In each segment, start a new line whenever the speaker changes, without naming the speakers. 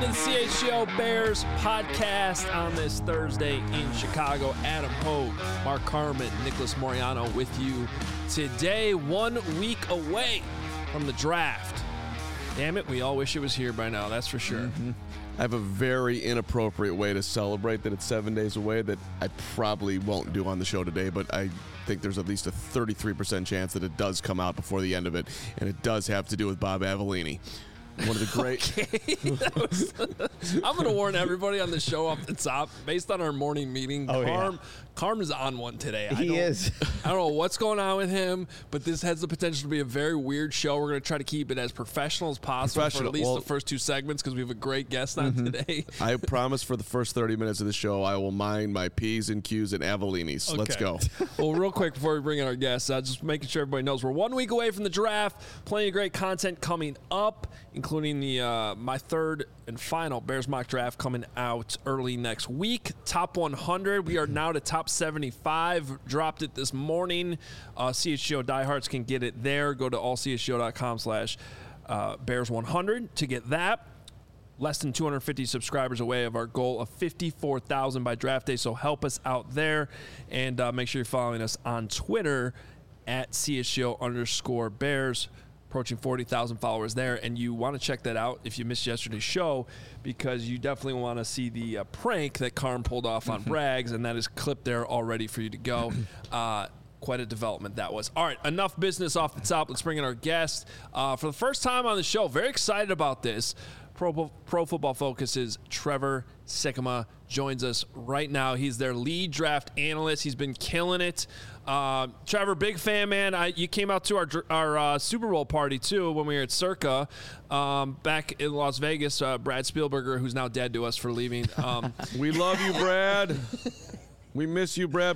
the CHGO Bears podcast on this Thursday in Chicago. Adam Hogue, Mark Carman, Nicholas Moriano with you today, 1 week away from the draft. Damn it, we all wish it was here by now, that's for sure.
Mm-hmm. I have a very inappropriate way to celebrate that it's 7 days away that I probably won't do on the show today, but I think there's at least a 33% chance that it does come out before the end of it, and it does have to do with Bob Avellini. One of the great.
Okay. I'm going to warn everybody on the show off the top, based on our morning meeting. Carm is on one today.
He is.
I don't know what's going on with him, but this has the potential to be a very weird show. We're going to try to keep it as professional as possible for at least the first two segments because we have a great guest on today.
I promise for the first 30 minutes of the show, I will mind my P's and Q's and Avellini's.
Okay.
Let's go.
Well, real quick before we bring in our guests, just making sure everybody knows we're 1 week away from the draft. Plenty of great content coming up, including the my third and final Bears mock draft coming out early next week. Top 100. We are now to top 75. Dropped it this morning. CHGO diehards can get it there. Go to allchgo.com/Bears100 to get that. Less than 250 subscribers away of our goal of 54,000 by draft day. So help us out there. And make sure you're following us on Twitter at CHGO_Bears. Approaching 40,000 followers there, and you want to check that out if you missed yesterday's show, because you definitely want to see the prank that Carm pulled off on Braggs, and that is clipped there all ready for you to go. Quite a development that was. All right, enough business off the top. Let's bring in our guest. For the first time on the show, very excited about this. Pro Football Focus's Trevor Sikkema joins us right now. He's their lead draft analyst. He's been killing it. Trevor, big fan, man. You came out to our Super Bowl party, too, when we were at Circa back in Las Vegas. Brad Spielberger, who's now dead to us for leaving.
We love you, Brad. We miss you, Brad,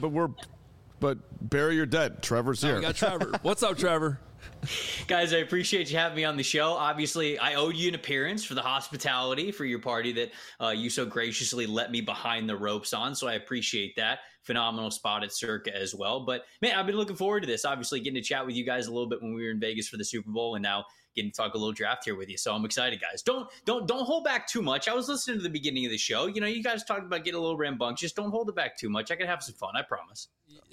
but bury your dead. Trevor's here.
We got Trevor. What's up, Trevor?
Guys, I appreciate you having me on the show. Obviously, I owed you an appearance for the hospitality for your party that you so graciously let me behind the ropes on, so I appreciate that. Phenomenal spot at Circa as well. But, man, I've been looking forward to this. Obviously, getting to chat with you guys a little bit when we were in Vegas for the Super Bowl, and now getting to talk a little draft here with you. So I'm excited, guys. Don't hold back too much. I was listening to the beginning of the show. You know, you guys talked about getting a little rambunctious. Don't hold it back too much. I can have some fun, I promise.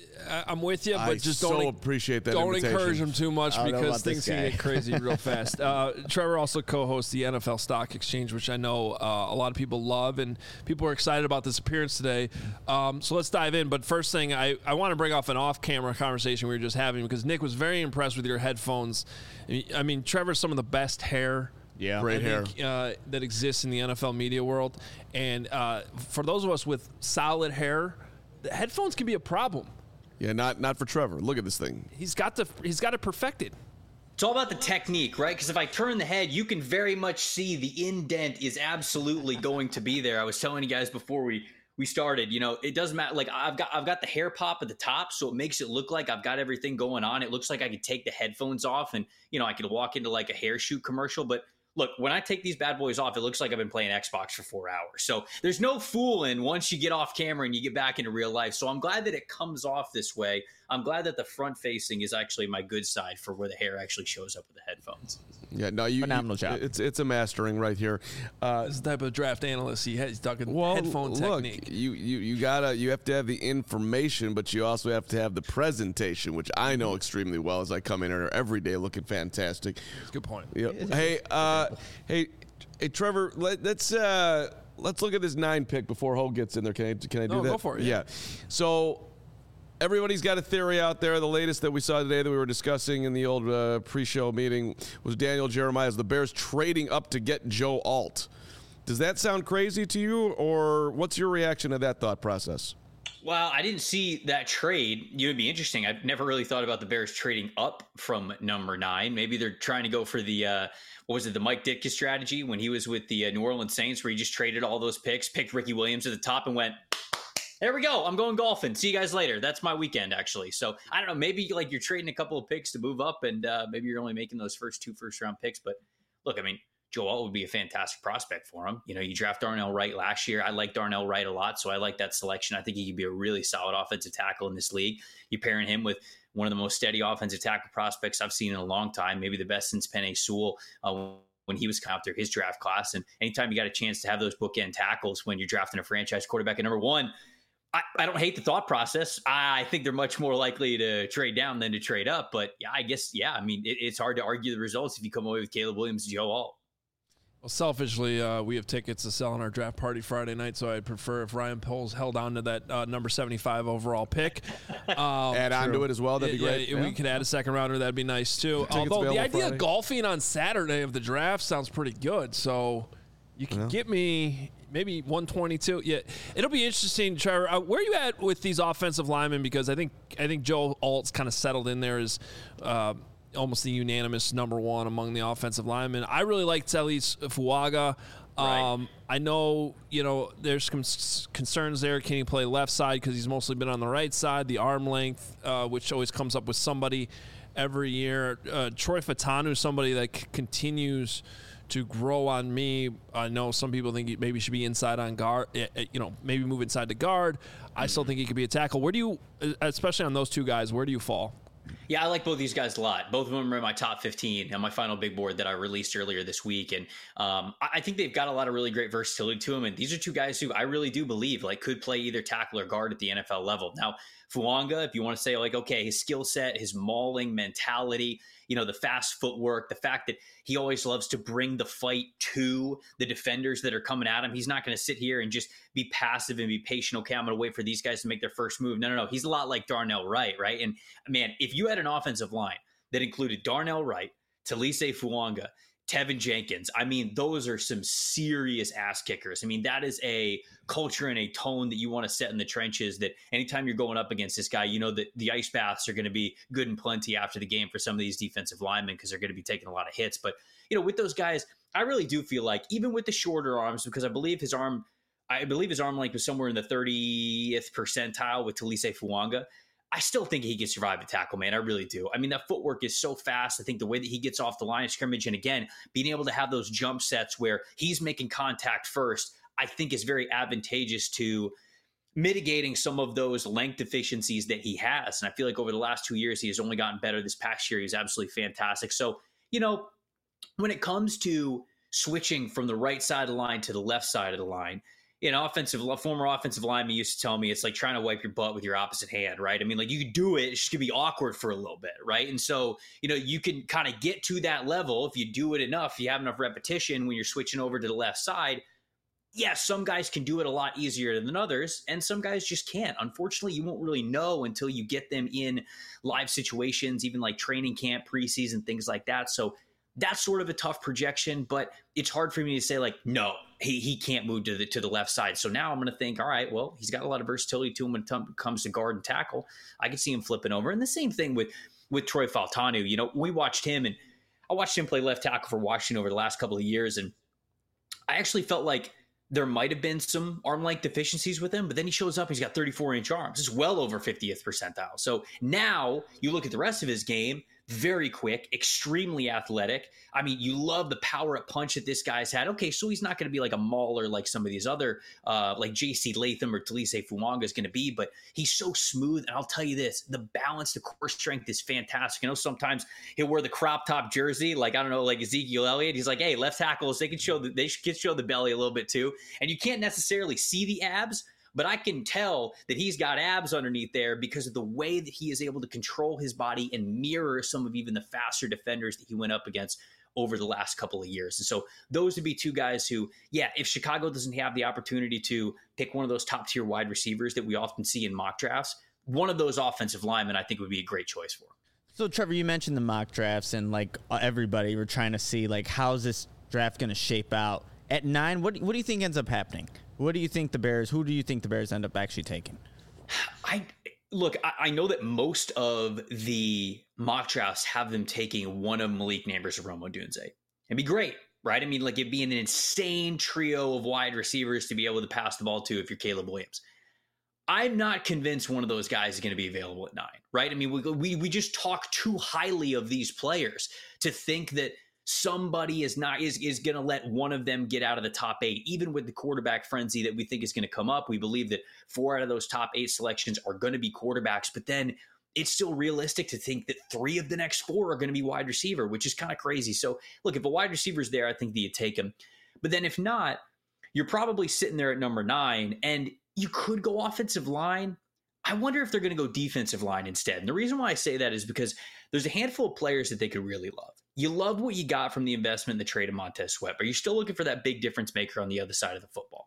I'm with you, but just don't
appreciate that.
Don't
invitation.
encourage him too much because things can get crazy real fast. Trevor also co-hosts the NFL Stock Exchange, which I know a lot of people love, and people are excited about this appearance today. So let's dive in. But first thing, I want to bring off an off-camera conversation we were just having because Nick was very impressed with your headphones. I mean, Trevor's some of the best hair.
Yeah, great hair
that exists in the NFL media world, and for those of us with solid hair, the headphones can be a problem.
Yeah, not for Trevor. Look at this thing.
He's got it perfected.
It's all about the technique, right? Because if I turn the head, you can very much see the indent is absolutely going to be there. I was telling you guys before we started, you know, it doesn't matter. Like I've got the hair pop at the top, so it makes it look like I've got everything going on. It looks like I could take the headphones off and, you know, I could walk into like a hair shoot commercial. But look, when I take these bad boys off, it looks like I've been playing Xbox for 4 hours. So there's no fooling once you get off camera and you get back into real life. So I'm glad that it comes off this way. I'm glad that the front facing is actually my good side for where the hair actually shows up with the headphones.
Yeah, no,
phenomenal job.
It's a mastering right here.
This is the type of draft analyst he's talking headphone technique.
You have to have the information, but you also have to have the presentation, which I know extremely well as I come in here every day looking fantastic.
That's a good point.
Yeah. Hey, Trevor, let's look at this 9 pick before Hogue gets in there. Can I do that?
Go for it.
Yeah. So everybody's got a theory out there. The latest that we saw today that we were discussing in the old pre-show meeting was Daniel Jeremiah's the Bears trading up to get Joe Alt. Does that sound crazy to you, or what's your reaction to that thought process?
Well, I didn't see that trade. It would be interesting. I've never really thought about the Bears trading up from number 9. Maybe they're trying to go for the the Mike Ditka strategy when he was with the New Orleans Saints, where he just traded all those picks, picked Ricky Williams at the top, and went, there we go. I'm going golfing. See you guys later. That's my weekend, actually. So I don't know. Maybe like you're trading a couple of picks to move up, and maybe you're only making those first 2 first-round picks. But look, I mean, Joe Alt would be a fantastic prospect for him. You know, you draft Darnell Wright last year. I like Darnell Wright a lot, so I like that selection. I think he could be a really solid offensive tackle in this league. You're pairing him with one of the most steady offensive tackle prospects I've seen in a long time, maybe the best since Penei Sewell when he was out there, his draft class. And anytime you got a chance to have those bookend tackles when you're drafting a franchise quarterback at number one, I don't hate the thought process. I think they're much more likely to trade down than to trade up. But yeah, I guess, I mean, it's hard to argue the results if you come away with Caleb Williams and Joe Alt.
Well, selfishly, we have tickets to sell on our draft party Friday night, so I'd prefer if Ryan Poles held on to that number 75 overall pick.
Add on to it as well. That'd be great.
We could add a second rounder. That'd be nice, too. Although the idea of golfing on Saturday of the draft sounds pretty good, so you can get me maybe 122. Yeah, it'll be interesting, Trevor. Where are you at with these offensive linemen? Because I think Joe Alt's kind of settled in there as almost the unanimous number one among the offensive linemen. I really like Taliese Fuaga.
Right.
I know, there's some concerns there. Can he play left side because he's mostly been on the right side? The arm length, which always comes up with somebody every year. Troy Fautanu, somebody that continues to grow on me. I know some people think he maybe should be inside on guard, maybe move inside to guard. I still think he could be a tackle. Where do you, especially on those two guys, where do you fall?
Yeah, I like both these guys a lot. Both of them are in my top 15 on my final big board that I released earlier this week. And I think they've got a lot of really great versatility to them. And these are two guys who I really do believe could play either tackle or guard at the NFL level. Now, Fuanga, if you want to say okay, his skill set, his mauling mentality, the fast footwork, the fact that he always loves to bring the fight to the defenders that are coming at him. He's not going to sit here and just be passive and be patient. Okay, I'm going to wait for these guys to make their first move. No. He's a lot like Darnell Wright, right? And man, if you had an offensive line that included Darnell Wright, Taliese Fuanga, Tevin Jenkins, I mean, those are some serious ass kickers. I mean, that is a culture and a tone that you want to set in the trenches, that anytime you're going up against this guy, that the ice baths are going to be good and plenty after the game for some of these defensive linemen because they're going to be taking a lot of hits. But, with those guys, I really do feel like even with the shorter arms, because I believe his arm length was somewhere in the 30th percentile with Taliese Fuanga, I still think he can survive a tackle, man. I really do. I mean, that footwork is so fast. I think the way that he gets off the line of scrimmage, and again, being able to have those jump sets where he's making contact first, I think is very advantageous to mitigating some of those length deficiencies that he has. And I feel like over the last 2 years, he has only gotten better. This past year, he's absolutely fantastic. So, when it comes to switching from the right side of the line to the left side of the line, former offensive lineman used to tell me it's like trying to wipe your butt with your opposite hand, right? I mean, you can do it, it's just gonna be awkward for a little bit, right? And so, you can kind of get to that level if you do it enough, you have enough repetition when you're switching over to the left side. Yeah, some guys can do it a lot easier than others, and some guys just can't. Unfortunately, you won't really know until you get them in live situations, even like training camp, preseason, things like that. So that's sort of a tough projection, but it's hard for me to say no, he can't move to the left side. So now I'm going to think, all right, well, he's got a lot of versatility to him when it comes to guard and tackle. I can see him flipping over. And the same thing with Troy Fautanu. We watched him, and I watched him play left tackle for Washington over the last couple of years, and I actually felt like there might have been some arm length deficiencies with him, but then he shows up, he's got 34-inch arms. It's well over 50th percentile. So now you look at the rest of his game, very quick, extremely athletic. I mean, you love the power at punch that this guy's had. Okay, so he's not going to be like a mauler like some of these other, like J.C. Latham or Taliese Fuanga is going to be, but he's so smooth. And I'll tell you this, the balance, the core strength is fantastic. Sometimes he'll wear the crop top jersey, like Ezekiel Elliott. He's like, hey, left tackles, they can show the belly a little bit too. And you can't necessarily see the abs, but I can tell that he's got abs underneath there because of the way that he is able to control his body and mirror some of even the faster defenders that he went up against over the last couple of years. And so those would be two guys who, if Chicago doesn't have the opportunity to pick one of those top tier wide receivers that we often see in mock drafts, one of those offensive linemen I think would be a great choice for him.
So Trevor, you mentioned the mock drafts, and everybody, we're trying to see how's this draft going to shape out. At 9, what do you think ends up happening? Who do you think the Bears end up actually taking?
I know that most of the mock drafts have them taking one of Malik Nabers or Rome Odunze. It'd be great, right? I mean, it'd be an insane trio of wide receivers to be able to pass the ball to if you're Caleb Williams. I'm not convinced one of those guys is going to be available at 9, right? I mean, we just talk too highly of these players to think that somebody is going to let one of them get out of the top 8, even with the quarterback frenzy that we think is going to come up. We believe that 4 out of those top 8 selections are going to be quarterbacks, but then it's still realistic to think that 3 of the next 4 are going to be wide receiver, which is kind of crazy. So look, if a wide receiver is there, I think that you take him. But then if not, you're probably sitting there at number 9, and you could go offensive line. I wonder if they're going to go defensive line instead. And the reason why I say that is because there's a handful of players that they could really love. You love what you got from the investment in the trade of Montez Sweat, but you're still looking for that big difference maker on the other side of the football.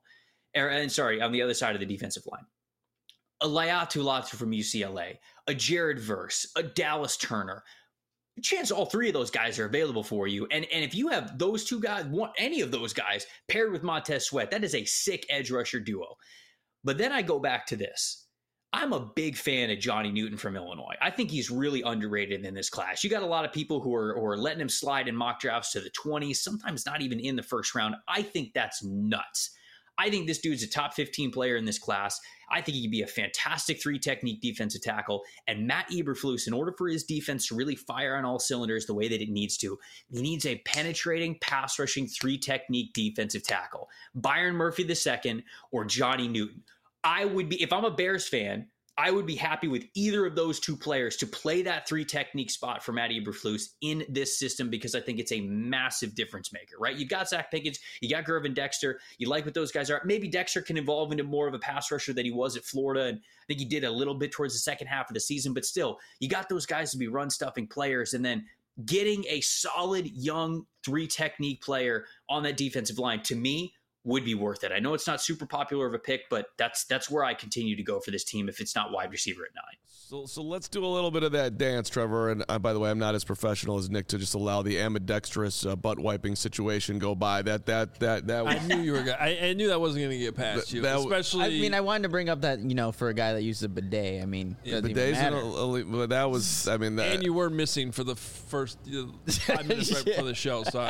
On the other side of the defensive line. A Laiatu Latu from UCLA, a Jared Verse, a Dallas Turner. Chance all 3 of those guys are available for you. And if you have those 2 guys, any of those guys paired with Montez Sweat, that is a sick edge rusher duo. But then I go back to this. I'm a big fan of Johnny Newton from Illinois. I think he's really underrated in this class. You got a lot of people who are letting him slide in mock drafts to the 20s, sometimes not even in the first round. I think that's nuts. I think this dude's a top 15 player in this class. I think he could be a fantastic 3-technique defensive tackle. And Matt Eberflus, in order for his defense to really fire on all cylinders the way that it needs to, he needs a penetrating, pass-rushing 3-technique defensive tackle. Byron Murphy II or Johnny Newton. I would be, if I'm a Bears fan, I would be happy with either of those 2 players to play that 3-technique spot for Matt Eberflus in this system, because I think it's a massive difference maker, right? You've got Zach Pickens, you got Gervin Dexter, you like what those guys are. Maybe Dexter can evolve into more of a pass rusher than he was at Florida, and I think he did a little bit towards the second half of the season, but still, you got those guys to be run-stuffing players, and then getting a solid, young 3-technique player on that defensive line, to me, would be worth it. I know it's not super popular of a pick, but that's where I continue to go for this team if it's not wide receiver at 9.
So let's do a little bit of that dance, Trevor. And by the way, I'm not as professional as Nick to just allow the ambidextrous butt wiping situation go by. That was,
I knew you were. I knew that wasn't going to get past you. Especially,
I mean, I wanted to bring up that, for a guy that uses a bidet. I mean,
bidets. That was. I mean,
and you were missing for the first 5 minutes right before the show. So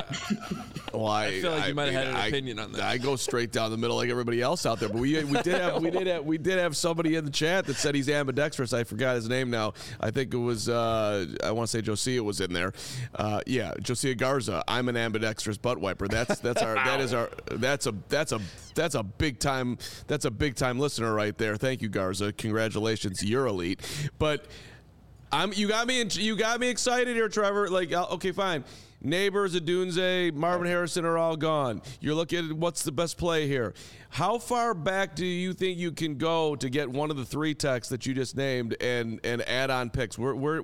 I feel like you might have had an opinion on that.
I go straight down the middle like everybody else out there. But we did have somebody in the chat that said he's ambidextrous. I forgot his name now. I think it was I want to say Josiah was in there. Josiah Garza. I'm an ambidextrous butt wiper. That's a big time listener right there. Thank you, Garza. Congratulations, you're elite. But you got me excited here, Trevor. Like, okay, fine. Neighbors, Adunze, Marvin Harrison are all gone. You're looking at what's the best play here. How far back do you think you can go to get one of the 3 techs that you just named and add on picks?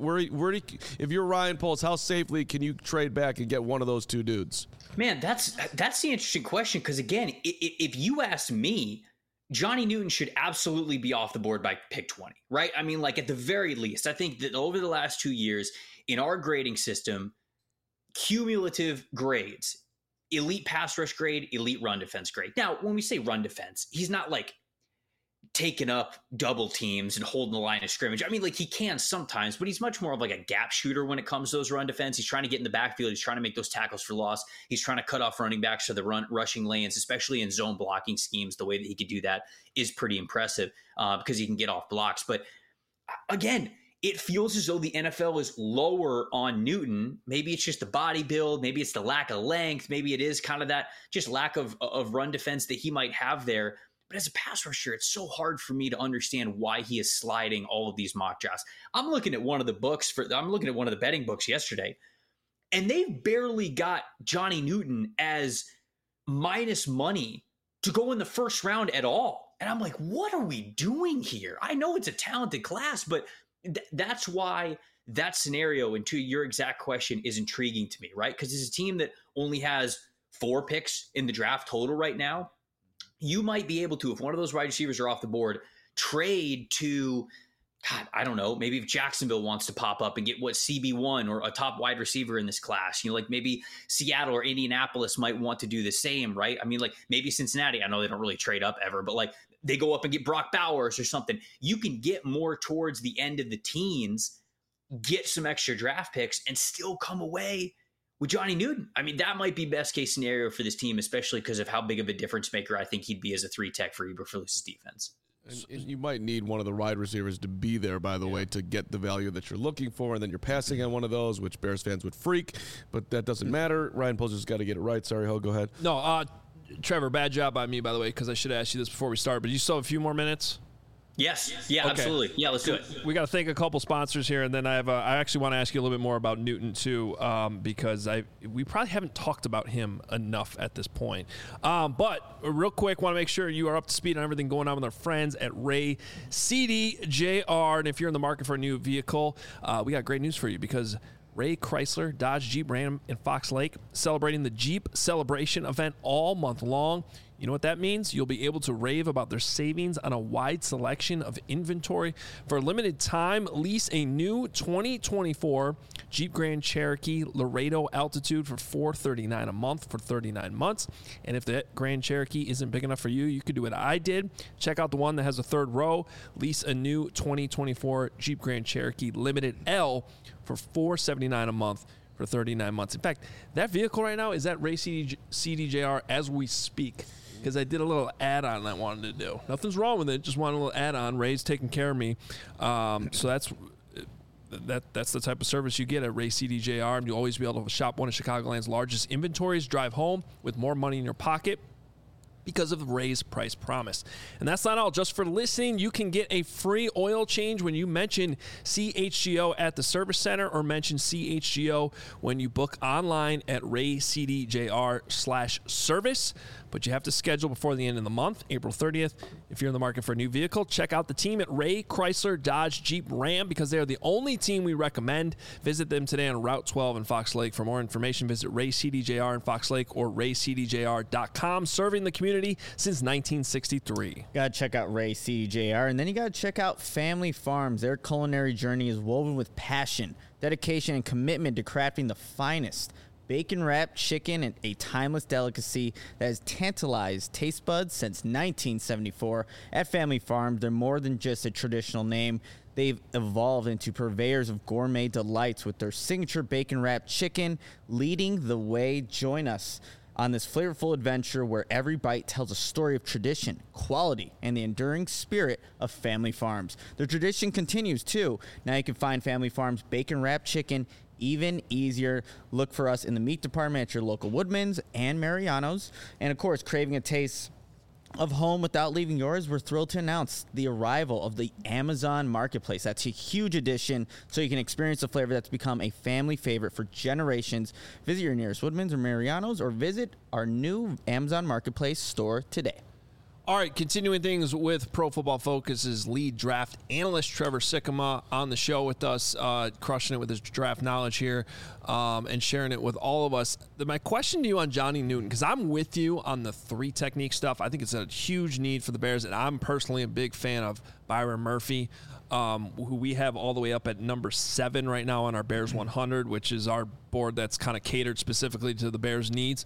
If you're Ryan Poles, how safely can you trade back and get one of those 2 dudes?
Man, that's the interesting question, because again, if you ask me, Johnny Newton should absolutely be off the board by pick 20, right? I mean, like, at the very least, I think that over the last 2 years in our grading system, cumulative grades, elite pass rush grade, elite run defense grade. Now, when we say run defense, he's not like taking up double teams and holding the line of scrimmage. I mean, like, he can sometimes, but he's much more of like a gap shooter when it comes to those run defense. He's trying to get in the backfield. He's trying to make those tackles for loss. He's trying to cut off running backs to the rushing lanes, especially in zone blocking schemes. The way that he could do that is pretty impressive because he can get off blocks. But again, it feels as though the NFL is lower on Newton. Maybe it's just the body build. Maybe it's the lack of length. Maybe it is kind of that just lack of run defense that he might have there. But as a pass rusher, it's so hard for me to understand why he is sliding all of these mock drafts. I'm looking at one of the betting books yesterday, and they've barely got Johnny Newton as minus money to go in the first round at all. And I'm like, what are we doing here? I know it's a talented class, but that's why that scenario, and to your exact question, is intriguing to me, right? Because it's a team that only has 4 picks in the draft total right now. You might be able to, if one of those wide receivers are off the board, trade to, God, I don't know, maybe if Jacksonville wants to pop up and get CB1 or a top wide receiver in this class, like maybe Seattle or Indianapolis might want to do the same, right? I mean, like maybe Cincinnati, I know they don't really trade up ever, but like they go up and get Brock Bowers or something. You can get more towards the end of the teens, get some extra draft picks, and still come away with Johnny Newton. I mean, that might be best case scenario for this team, especially because of how big of a difference maker I think he'd be as a 3-tech for Eberflus's defense.
And you might need one of the wide receivers to be there, by the way, to get the value that you're looking for, and then you're passing on one of those, which Bears fans would freak, but that doesn't matter. Ryan Poles got to get it right. Sorry, Ho, go ahead.
No, Trevor, bad job by me, by the way, because I should have asked you this before we start, but you still have a few more minutes?
Yes. Yeah,
Okay.
absolutely. Yeah, let's do it.
We got to thank a couple sponsors here, and then I actually want to ask you a little bit more about Newton too, because we probably haven't talked about him enough at this point. But real quick, want to make sure you are up to speed on everything going on with our friends at Ray CDJR, and if you're in the market for a new vehicle, we got great news for you because Ray Chrysler, Dodge, Jeep, Ram in Fox Lake celebrating the Jeep Celebration event all month long. You know what that means? You'll be able to rave about their savings on a wide selection of inventory. For a limited time, lease a new 2024 Jeep Grand Cherokee Laredo Altitude for $439 a month for 39 months. And if the Grand Cherokee isn't big enough for you, you could do what I did. Check out the one that has a third row. Lease a new 2024 Jeep Grand Cherokee Limited L for $479 a month for 39 months. In fact, that vehicle right now is at Ray CDJR as we speak, because I did a little add-on I wanted to do. Nothing's wrong with it. Just wanted a little add-on. Ray's taking care of me. So that's the type of service you get at Ray CDJR. And you'll always be able to shop one of Chicagoland's largest inventories, drive home with more money in your pocket because of Ray's price promise. And that's not all. Just for listening, you can get a free oil change when you mention CHGO at the service center or mention CHGO when you book online at raycdjr/service. But you have to schedule before the end of the month, April 30th. If you're in the market for a new vehicle, check out the team at Ray Chrysler Dodge Jeep Ram because they are the only team we recommend. Visit them today on Route 12 in Fox Lake. For more information, visit Ray CDJR in Fox Lake or raycdjr.com. Serving the community since 1963.
Gotta check out Ray CDJR, and then you gotta check out Family Farms. Their culinary journey is woven with passion, dedication, and commitment to crafting the finest bacon-wrapped chicken, and a timeless delicacy that has tantalized taste buds since 1974. At Family Farms, they're more than just a traditional name. They've evolved into purveyors of gourmet delights with their signature bacon-wrapped chicken leading the way. Join us on this flavorful adventure where every bite tells a story of tradition, quality, and the enduring spirit of Family Farms. The tradition continues, too. Now you can find Family Farms bacon-wrapped chicken even easier. Look for us in the meat department at your local Woodman's and Mariano's. And, of course, craving a taste of home without leaving yours, we're thrilled to announce the arrival of the Amazon Marketplace. That's a huge addition, so you can experience a flavor that's become a family favorite for generations. Visit your nearest Woodman's or Mariano's or visit our new Amazon Marketplace store today.
All right, continuing things with Pro Football Focus's lead draft analyst, Trevor Sikkema, on the show with us, crushing it with his draft knowledge here and sharing it with all of us. My question to you on Johnny Newton, because I'm with you on the three technique stuff. I think it's a huge need for the Bears, and I'm personally a big fan of Byron Murphy, who we have all the way up at number 7 right now on our Bears 100, which is our board that's kind of catered specifically to the Bears' needs.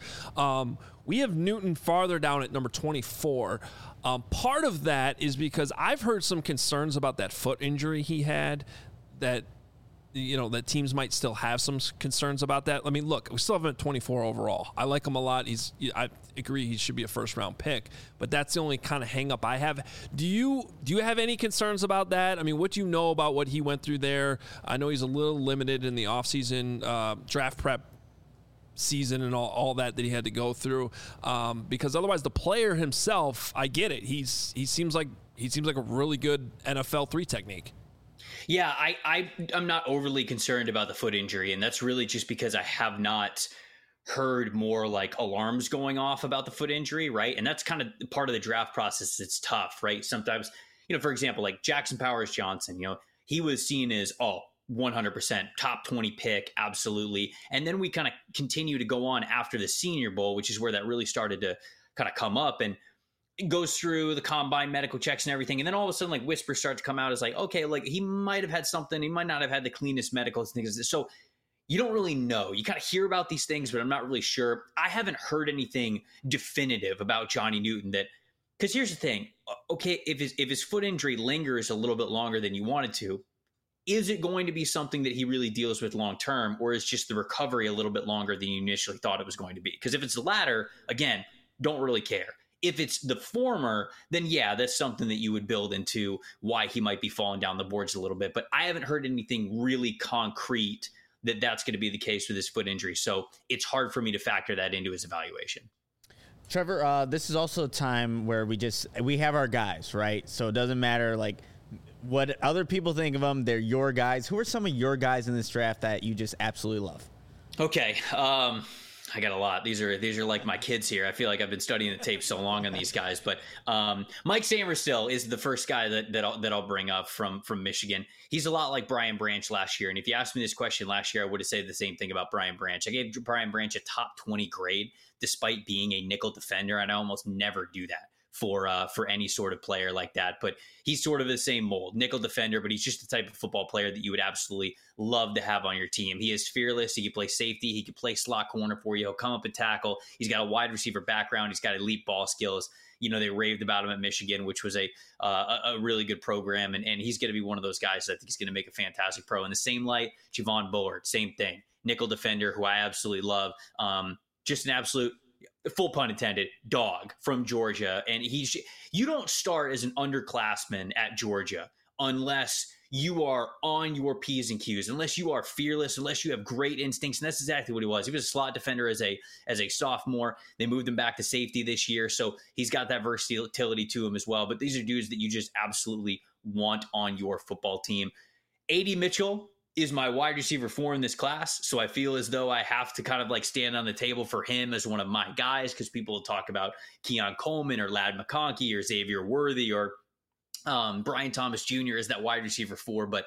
We have Newton farther down at number 24. Part of that is because I've heard some concerns about that foot injury he had, that that teams might still have some concerns about that. I mean, look, we still have him at 24 overall. I like him a lot. I agree he should be a first-round pick, but that's the only kind of hang-up I have. Do you have any concerns about that? I mean, what do you know about what he went through there? I know he's a little limited in the offseason draft prep season and all that he had to go through, because otherwise the player himself, I get it. He seems like a really good NFL 3 technique.
Yeah, I'm not overly concerned about the foot injury, and that's really just because I have not heard more like alarms going off about the foot injury, right? And that's kind of part of the draft process. It's tough, right? Sometimes, for example, like Jackson Powers Johnson, he was seen as 100% top 20 pick, absolutely. And then we kind of continue to go on after the Senior Bowl, which is where that really started to kind of come up, and it goes through the combine medical checks and everything. And then all of a sudden, like, whispers start to come out as like, okay, like he might have had something. He might not have had the cleanest medical things. So you don't really know. You kind of hear about these things, but I'm not really sure. I haven't heard anything definitive about Johnny Newton because here's the thing. Okay, if his foot injury lingers a little bit longer than you wanted to, is it going to be something that he really deals with long term, or is just the recovery a little bit longer than you initially thought it was going to be? Because if it's the latter, again, don't really care. If it's the former, then yeah, that's something that you would build into why he might be falling down the boards a little bit. But I haven't heard anything really concrete that's going to be the case with his foot injury. So it's hard for me to factor that into his evaluation.
Trevor, this is also a time where we have our guys, right? So it doesn't matter like what other people think of them. They're your guys. Who are some of your guys in this draft that you just absolutely love?
Okay. I got a lot. These are like my kids here. I feel like I've been studying the tape so long on these guys, but Mike Sainristil is the first guy that I'll bring up from Michigan. He's a lot like Brian Branch last year. And if you asked me this question last year, I would have said the same thing about Brian Branch. I gave Brian Branch a top 20 grade despite being a nickel defender, and I almost never do that for any sort of player like that. But he's sort of the same mold, nickel defender, but he's just the type of football player that you would absolutely love to have on your team. He is fearless. He can play safety. He can play slot corner for you. He'll come up and tackle. He's got a wide receiver background. He's got elite ball skills. You know, they raved about him at Michigan, which was a really good program. And he's going to be one of those guys that I think he's going to make a fantastic pro. In the same light, Javon Bullard, same thing. Nickel defender, who I absolutely love. Just an absolute, full pun intended, dog from Georgia. And you don't start as an underclassman at Georgia unless you are on your P's and Q's, unless you are fearless, unless you have great instincts. And that's exactly what he was. He was a slot defender as a sophomore. They moved him back to safety this year. So he's got that versatility to him as well. But these are dudes that you just absolutely want on your football team. A.D. Mitchell is my wide receiver 4 in this class. So I feel as though I have to kind of like stand on the table for him as one of my guys, because people will talk about Keon Coleman or Ladd McConkey or Xavier Worthy or Brian Thomas Jr. is that wide receiver 4. But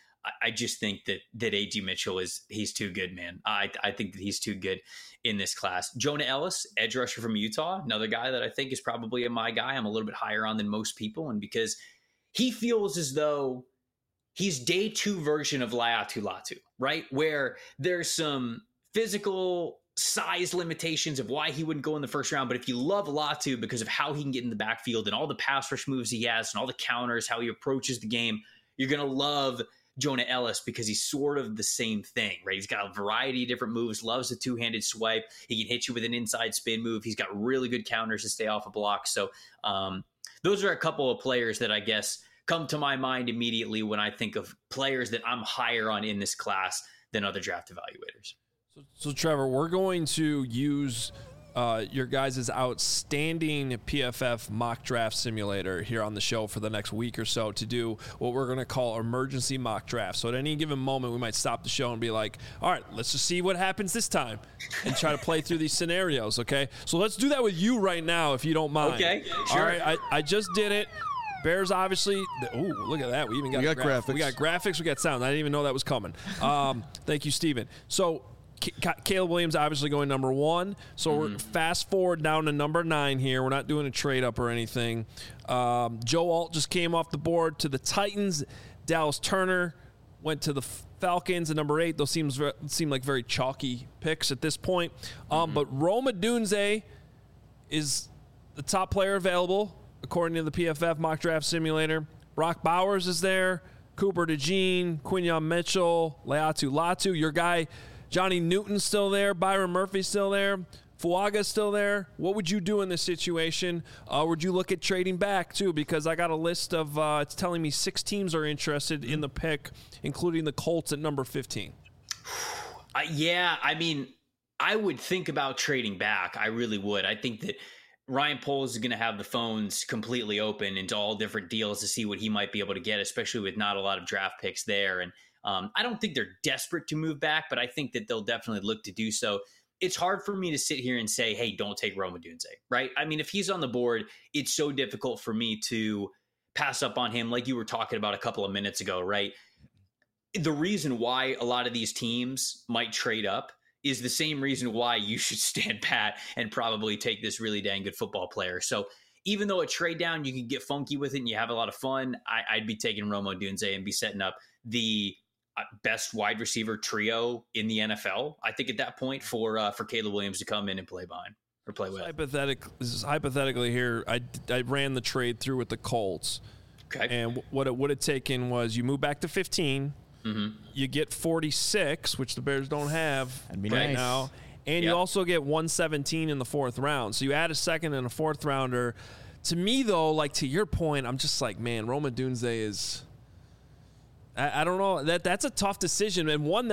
I just think that A.G. Mitchell he's too good, man. I think that he's too good in this class. Jonah Ellis, edge rusher from Utah, another guy that I think is probably my guy. I'm a little bit higher on than most people. And because he feels as though he's day 2 version of Laiatu Latu, right? Where there's some physical size limitations of why he wouldn't go in the first round. But if you love Latu because of how he can get in the backfield and all the pass rush moves he has and all the counters, how he approaches the game, you're going to love Jonah Ellis because he's sort of the same thing, right? He's got a variety of different moves, loves the 2-handed swipe. He can hit you with an inside spin move. He's got really good counters to stay off a block. So those are a couple of players that I guess come to my mind immediately when I think of players that I'm higher on in this class than other draft evaluators.
So Trevor, we're going to use your guys' outstanding PFF mock draft simulator here on the show for the next week or so to do what we're going to call emergency mock draft. So at any given moment, we might stop the show and be like, all right, let's just see what happens this time and try to play through these scenarios, okay? So let's do that with you right now, if you don't mind.
Okay, sure.
All right, I just did it. Bears, obviously. Ooh, look at that. We even got
graphics.
We got graphics. We got sound. I didn't even know that was coming. Thank you, Steven. So Caleb Williams obviously going number 1. So we're fast forward down to number 9 here. We're not doing a trade up or anything. Joe Alt just came off the board to the Titans. Dallas Turner went to the Falcons at number 8. Those seem like very chalky picks at this point. But Rome Odunze is the top player available, according to the PFF mock draft simulator. Brock Bowers is there. Cooper DeJean, Quinyon Mitchell, Laiatu Latu. Your guy, Johnny Newton's still there. Byron Murphy's still there. Fuaga's still there. What would you do in this situation? Would you look at trading back, too? Because I got a list of, it's telling me 6 teams are interested in the pick, including the Colts at number 15.
Yeah, I mean, I would think about trading back. I really would. I think that Ryan Poles is going to have the phones completely open into all different deals to see what he might be able to get, especially with not a lot of draft picks there. And I don't think they're desperate to move back, but I think that they'll definitely look to do so. It's hard for me to sit here and say, hey, don't take Rome Odunze, right? I mean, if he's on the board, it's so difficult for me to pass up on him like you were talking about a couple of minutes ago, right? The reason why a lot of these teams might trade up is the same reason why you should stand pat and probably take this really dang good football player. So even though a trade down, you can get funky with it and you have a lot of fun, I'd be taking Rome Odunze and be setting up the best wide receiver trio in the NFL, I think, at that point for Caleb Williams to come in and play behind or play with.
Hypothetically here, I ran the trade through with the Colts.
Okay.
And what it would have taken was you move back to 15, you get 46, which the Bears don't have right now, and you also get 117 in the 4th round. So you add a 2nd and a 4th rounder. To me, though, like to your point, I'm just like, man, Rome Odunze is – I don't know. That's a tough decision, and one that,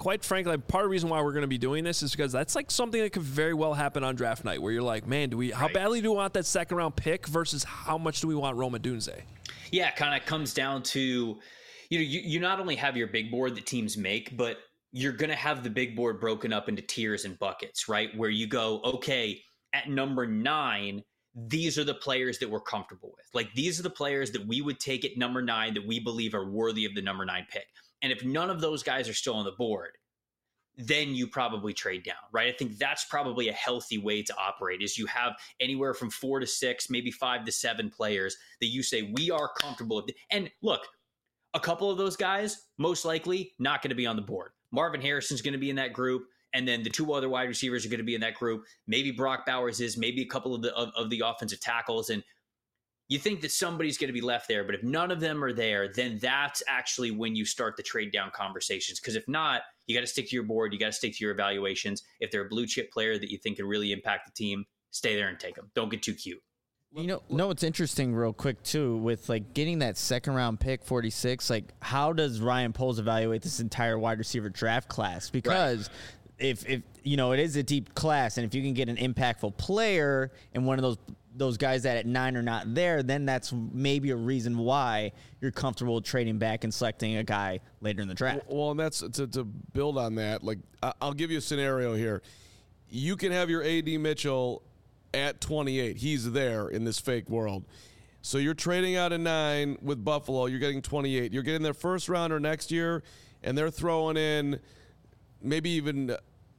quite frankly, part of the reason why we're going to be doing this is because that's like something that could very well happen on draft night, where you're like, man, how badly do we want that second round pick versus how much do we want Rome Odunze?
Yeah, it kind of comes down to, you not only have your big board that teams make, but you're going to have the big board broken up into tiers and buckets, right? Where you go, okay, at number 9, these are the players that we're comfortable with. Like, these are the players that we would take at number 9 that we believe are worthy of the number 9 pick. And if none of those guys are still on the board, then you probably trade down, right? I think that's probably a healthy way to operate, is you have anywhere from 4 to 6, maybe 5 to 7 players that you say, we are comfortable with. And look, a couple of those guys, most likely not going to be on the board. Marvin Harrison's going to be in that group. And then the 2 other wide receivers are going to be in that group. Maybe Brock Bowers is, maybe a couple of the offensive tackles. And you think that somebody's going to be left there. But if none of them are there, then that's actually when you start the trade down conversations. Because if not, you got to stick to your board. You got to stick to your evaluations. If they're a blue chip player that you think can really impact the team, stay there and take them. Don't get too cute.
It's interesting real quick too, with like getting that second round pick 46, like how does Ryan Poles evaluate this entire wide receiver draft class? Because if it is a deep class, and if you can get an impactful player and one of those guys that at 9 are not there, then that's maybe a reason why you're comfortable trading back and selecting a guy later in the draft.
Well, and that's to build on that. Like, I'll give you a scenario here. You can have your AD Mitchell at 28. He's there in this fake world. So you're trading out a 9 with Buffalo. You're getting 28. You're getting their first rounder next year, and they're throwing in maybe even,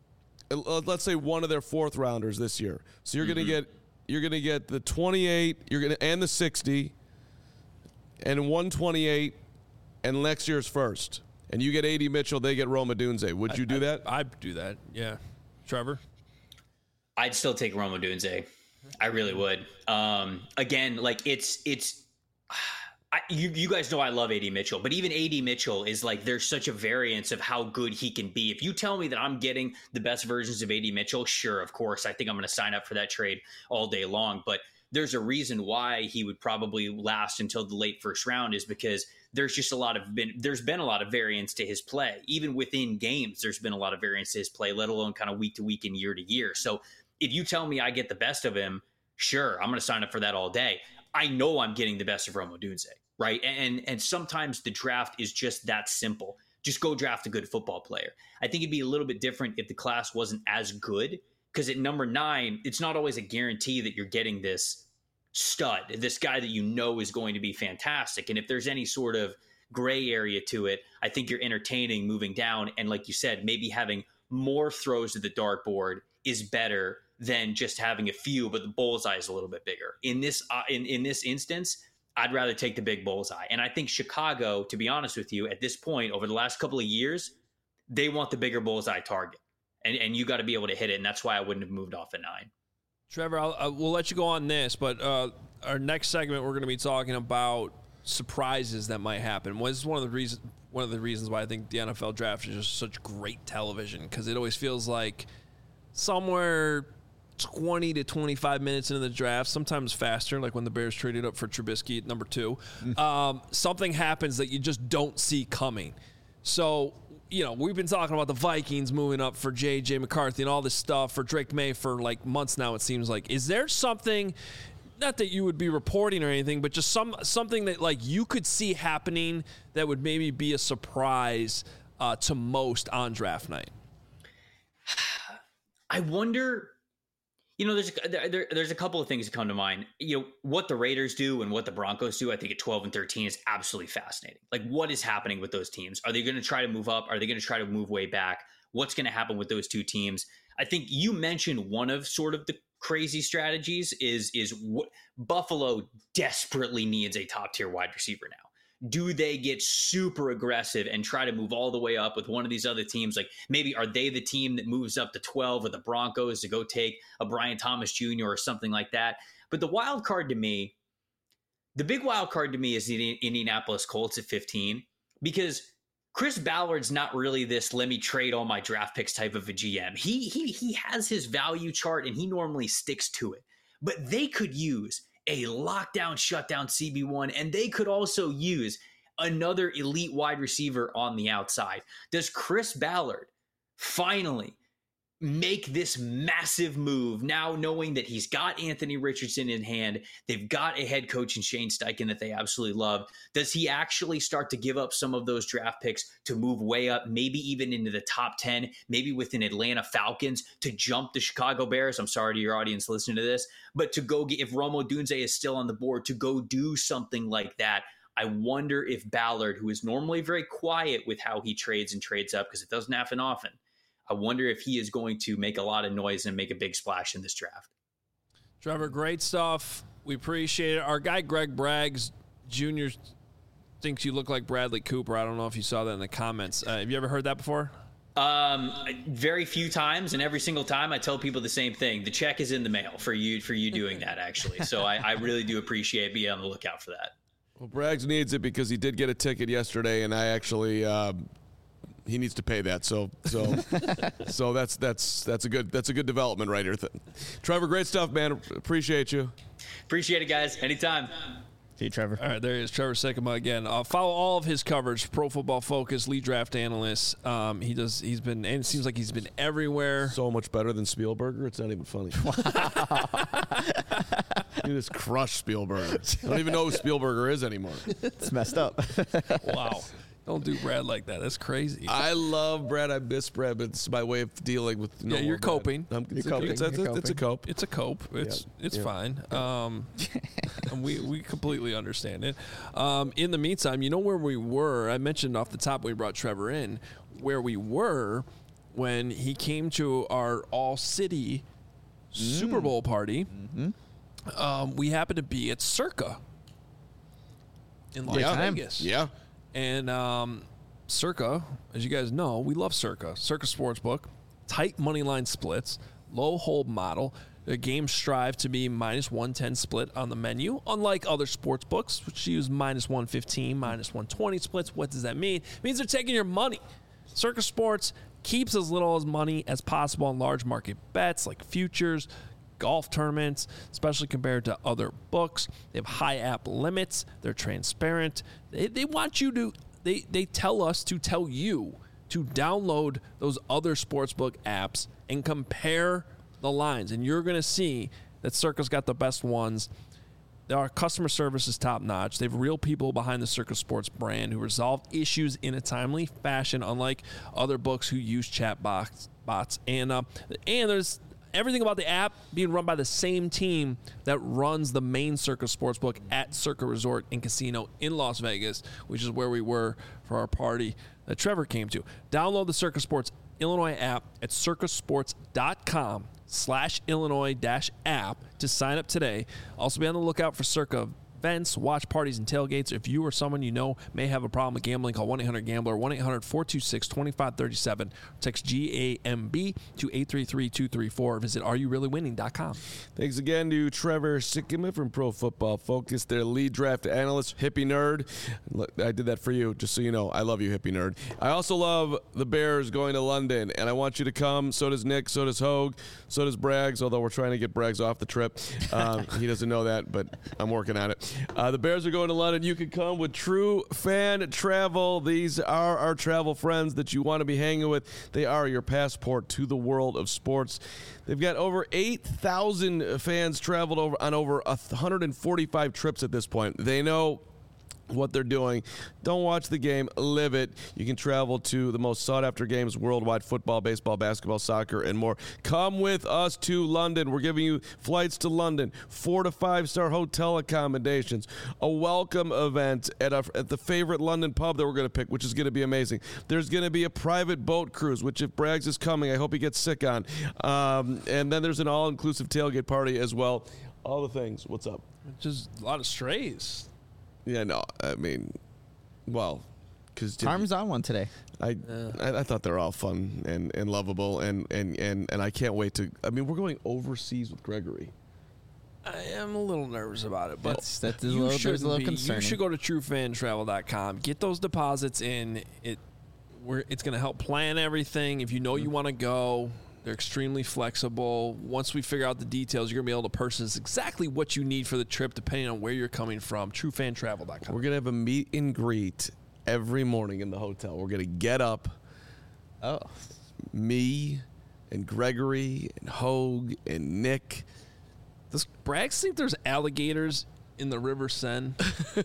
let's say, one of their 4th rounders this year. So you're going to get the 28. And the 60, and 128, and next year's first. And you get AD Mitchell. They get Rome Odunze. Would you do that?
I'd do that. Yeah, Trevor.
I'd still take Rome Odunze. I really would. Again, like you guys know I love AD Mitchell, but even AD Mitchell is like, there's such a variance of how good he can be. If you tell me that I'm getting the best versions of AD Mitchell, sure, of course, I think I'm going to sign up for that trade all day long. But there's a reason why he would probably last until the late first round, is because there's just there's been a lot of variance to his play. Even within games, there's been a lot of variance to his play, let alone kind of week to week and year to year. So if you tell me I get the best of him, sure, I'm going to sign up for that all day. I know I'm getting the best of Rome Odunze, right? And sometimes the draft is just that simple. Just go draft a good football player. I think it'd be a little bit different if the class wasn't as good, because at number 9, it's not always a guarantee that you're getting this stud, this guy that you know is going to be fantastic. And if there's any sort of gray area to it, I think you're entertaining moving down. And like you said, maybe having more throws to the dartboard is better than just having a few, but the bullseye is a little bit bigger. In this instance, I'd rather take the big bullseye. And I think Chicago, to be honest with you, at this point, over the last couple of years, they want the bigger bullseye target. And you got to be able to hit it. And that's why I wouldn't have moved off at 9.
Trevor, we'll let you go on this, but our next segment, we're going to be talking about surprises that might happen. This is one of the reasons why I think the NFL draft is just such great television, because it always feels like somewhere 20 to 25 minutes into the draft, sometimes faster, like when the Bears traded up for Trubisky at number 2, something happens that you just don't see coming. So, we've been talking about the Vikings moving up for J.J. McCarthy and all this stuff for Drake May for like months now, it seems like. Is there something, not that you would be reporting or anything, but just something that like you could see happening that would maybe be a surprise to most on draft night?
I wonder, there's a couple of things that come to mind. What the Raiders do and what the Broncos do, I think at 12 and 13 is absolutely fascinating. Like, what is happening with those teams? Are they going to try to move up? Are they going to try to move way back? What's going to happen with those two teams? I think you mentioned one of sort of the crazy strategies is what Buffalo desperately needs a top tier wide receiver now. Do they get super aggressive and try to move all the way up with one of these other teams? Like, maybe are they the team that moves up to 12 with the Broncos to go take a Brian Thomas Jr. or something like that? But the big wild card to me is the Indianapolis Colts at 15, because Chris Ballard's not really this let me trade all my draft picks type of a GM. He has his value chart and he normally sticks to it. But they could use a lockdown, shutdown CB1, and they could also use another elite wide receiver on the outside. Does Chris Ballard finally make this massive move now, knowing that he's got Anthony Richardson in hand. They've got a head coach in Shane Steichen that they absolutely love. Does he actually start to give up some of those draft picks to move way up, maybe even into the top 10, maybe with an Atlanta Falcons to jump the Chicago Bears? I'm sorry to your audience listening to this, but to go get, if Rome Odunze is still on the board, to go do something like that. I wonder if Ballard, who is normally very quiet with how he trades and trades up, because it doesn't happen often, I wonder if he is going to make a lot of noise and make a big splash in this draft.
Trevor, great stuff. We appreciate it. Our guy Greg Braggs Jr. thinks you look like Bradley Cooper. I don't know if you saw that in the comments. Have you ever heard that before?
Very few times, and every single time I tell people the same thing. The check is in the mail for you doing that, actually. So I really do appreciate being on the lookout for that.
Well, Braggs needs it because he did get a ticket yesterday, and I actually he needs to pay that. So that's a good development right here. Trevor, great stuff, man. Appreciate you.
Appreciate it, guys. Anytime.
See you, Trevor.
All right, there he is, Trevor Sikkema again. Follow all of his coverage, Pro Football Focus, lead draft analyst. He's been, and it seems like he's been everywhere.
So much better than Spielberger. It's not even funny. You just crushed Spielberger. I don't even know who Spielberger is anymore.
It's messed up.
Wow. Don't do Brad like that. That's crazy.
I love Brad. I miss Brad, but it's my way of dealing with.
You're coping.
It's a cope. It's a cope.
It's fine. And we completely understand it. In the meantime, you know where we were? I mentioned off the top when we brought Trevor in, where we were when he came to our all-city Super Bowl party. Mm-hmm. We happened to be at Circa in Las Vegas.
Yeah.
And Circa, as you guys know, we love Circa. Circa Sportsbook, tight money line splits, low hold model. The games strive to be minus 110 split on the menu, unlike other sports books, which use minus 115, minus 120 splits. What does that mean? It means they're taking your money. Circa Sports keeps as little as money as possible on large market bets like futures, golf tournaments, especially compared to other books. They have high app limits. They're transparent. They want you to, they tell us to tell you to download those other sportsbook apps and compare the lines. And you're going to see that Circa's got the best ones. Our customer service is top notch. They have real people behind the Circa Sports brand who resolve issues in a timely fashion, unlike other books who use chat bots. And there's everything about the app being run by the same team that runs the main Circa Sportsbook at Circa Resort and Casino in Las Vegas, which is where we were for our party that Trevor came to. Download the Circa Sports Illinois app at circasports.com/Illinois-app to sign up today. Also be on the lookout for Circa events, watch parties, and tailgates. If you or someone you know may have a problem with gambling, call 1-800-GAMBLER, 1-800-426-2537. Text GAMB to 833-234. Visit areyoureallywinning.com.
Thanks again to Trevor Sikkema from Pro Football Focus, their lead draft analyst, hippie nerd. I did that for you, just so you know. I love you, hippie nerd. I also love the Bears going to London, and I want you to come. So does Nick, so does Hogue, so does Braggs, although we're trying to get Braggs off the trip. He doesn't know that, but I'm working on it. The Bears are going to London. You can come with True Fan Travel. These are our travel friends that you want to be hanging with. They are your passport to the world of sports. They've got over 8,000 fans traveled on over 145 trips at this point. They know what they're doing. Don't watch the game, live it. You can travel to the most sought-after games worldwide: football, baseball, basketball, soccer, and more. Come with us to London. We're giving you flights to London, 4 to 5-star hotel accommodations, a welcome event at the favorite London pub that we're going to pick, which is going to be amazing. There's going to be a private boat cruise, which if Braggs is coming, I hope he gets sick on. And then there's an all-inclusive tailgate party as well. All the things. What's up?
Just a lot of strays.
Yeah, no, I mean, well, because
Harm's on one today.
I thought they're all fun and lovable, and I can't wait to. I mean, we're going overseas with Gregory.
I am a little nervous about it, but
That's a little concerning.
You should go to TrueFanTravel.com. Get those deposits in. It's going to help plan everything. If you know you want to go, they're extremely flexible. Once we figure out the details, you're going to be able to purchase exactly what you need for the trip, depending on where you're coming from. TrueFanTravel.com.
We're going to have a meet and greet every morning in the hotel. We're going to get up.
Oh.
me and Gregory and Hogue and Nick.
Does Braggs think there's alligators in the River Seine?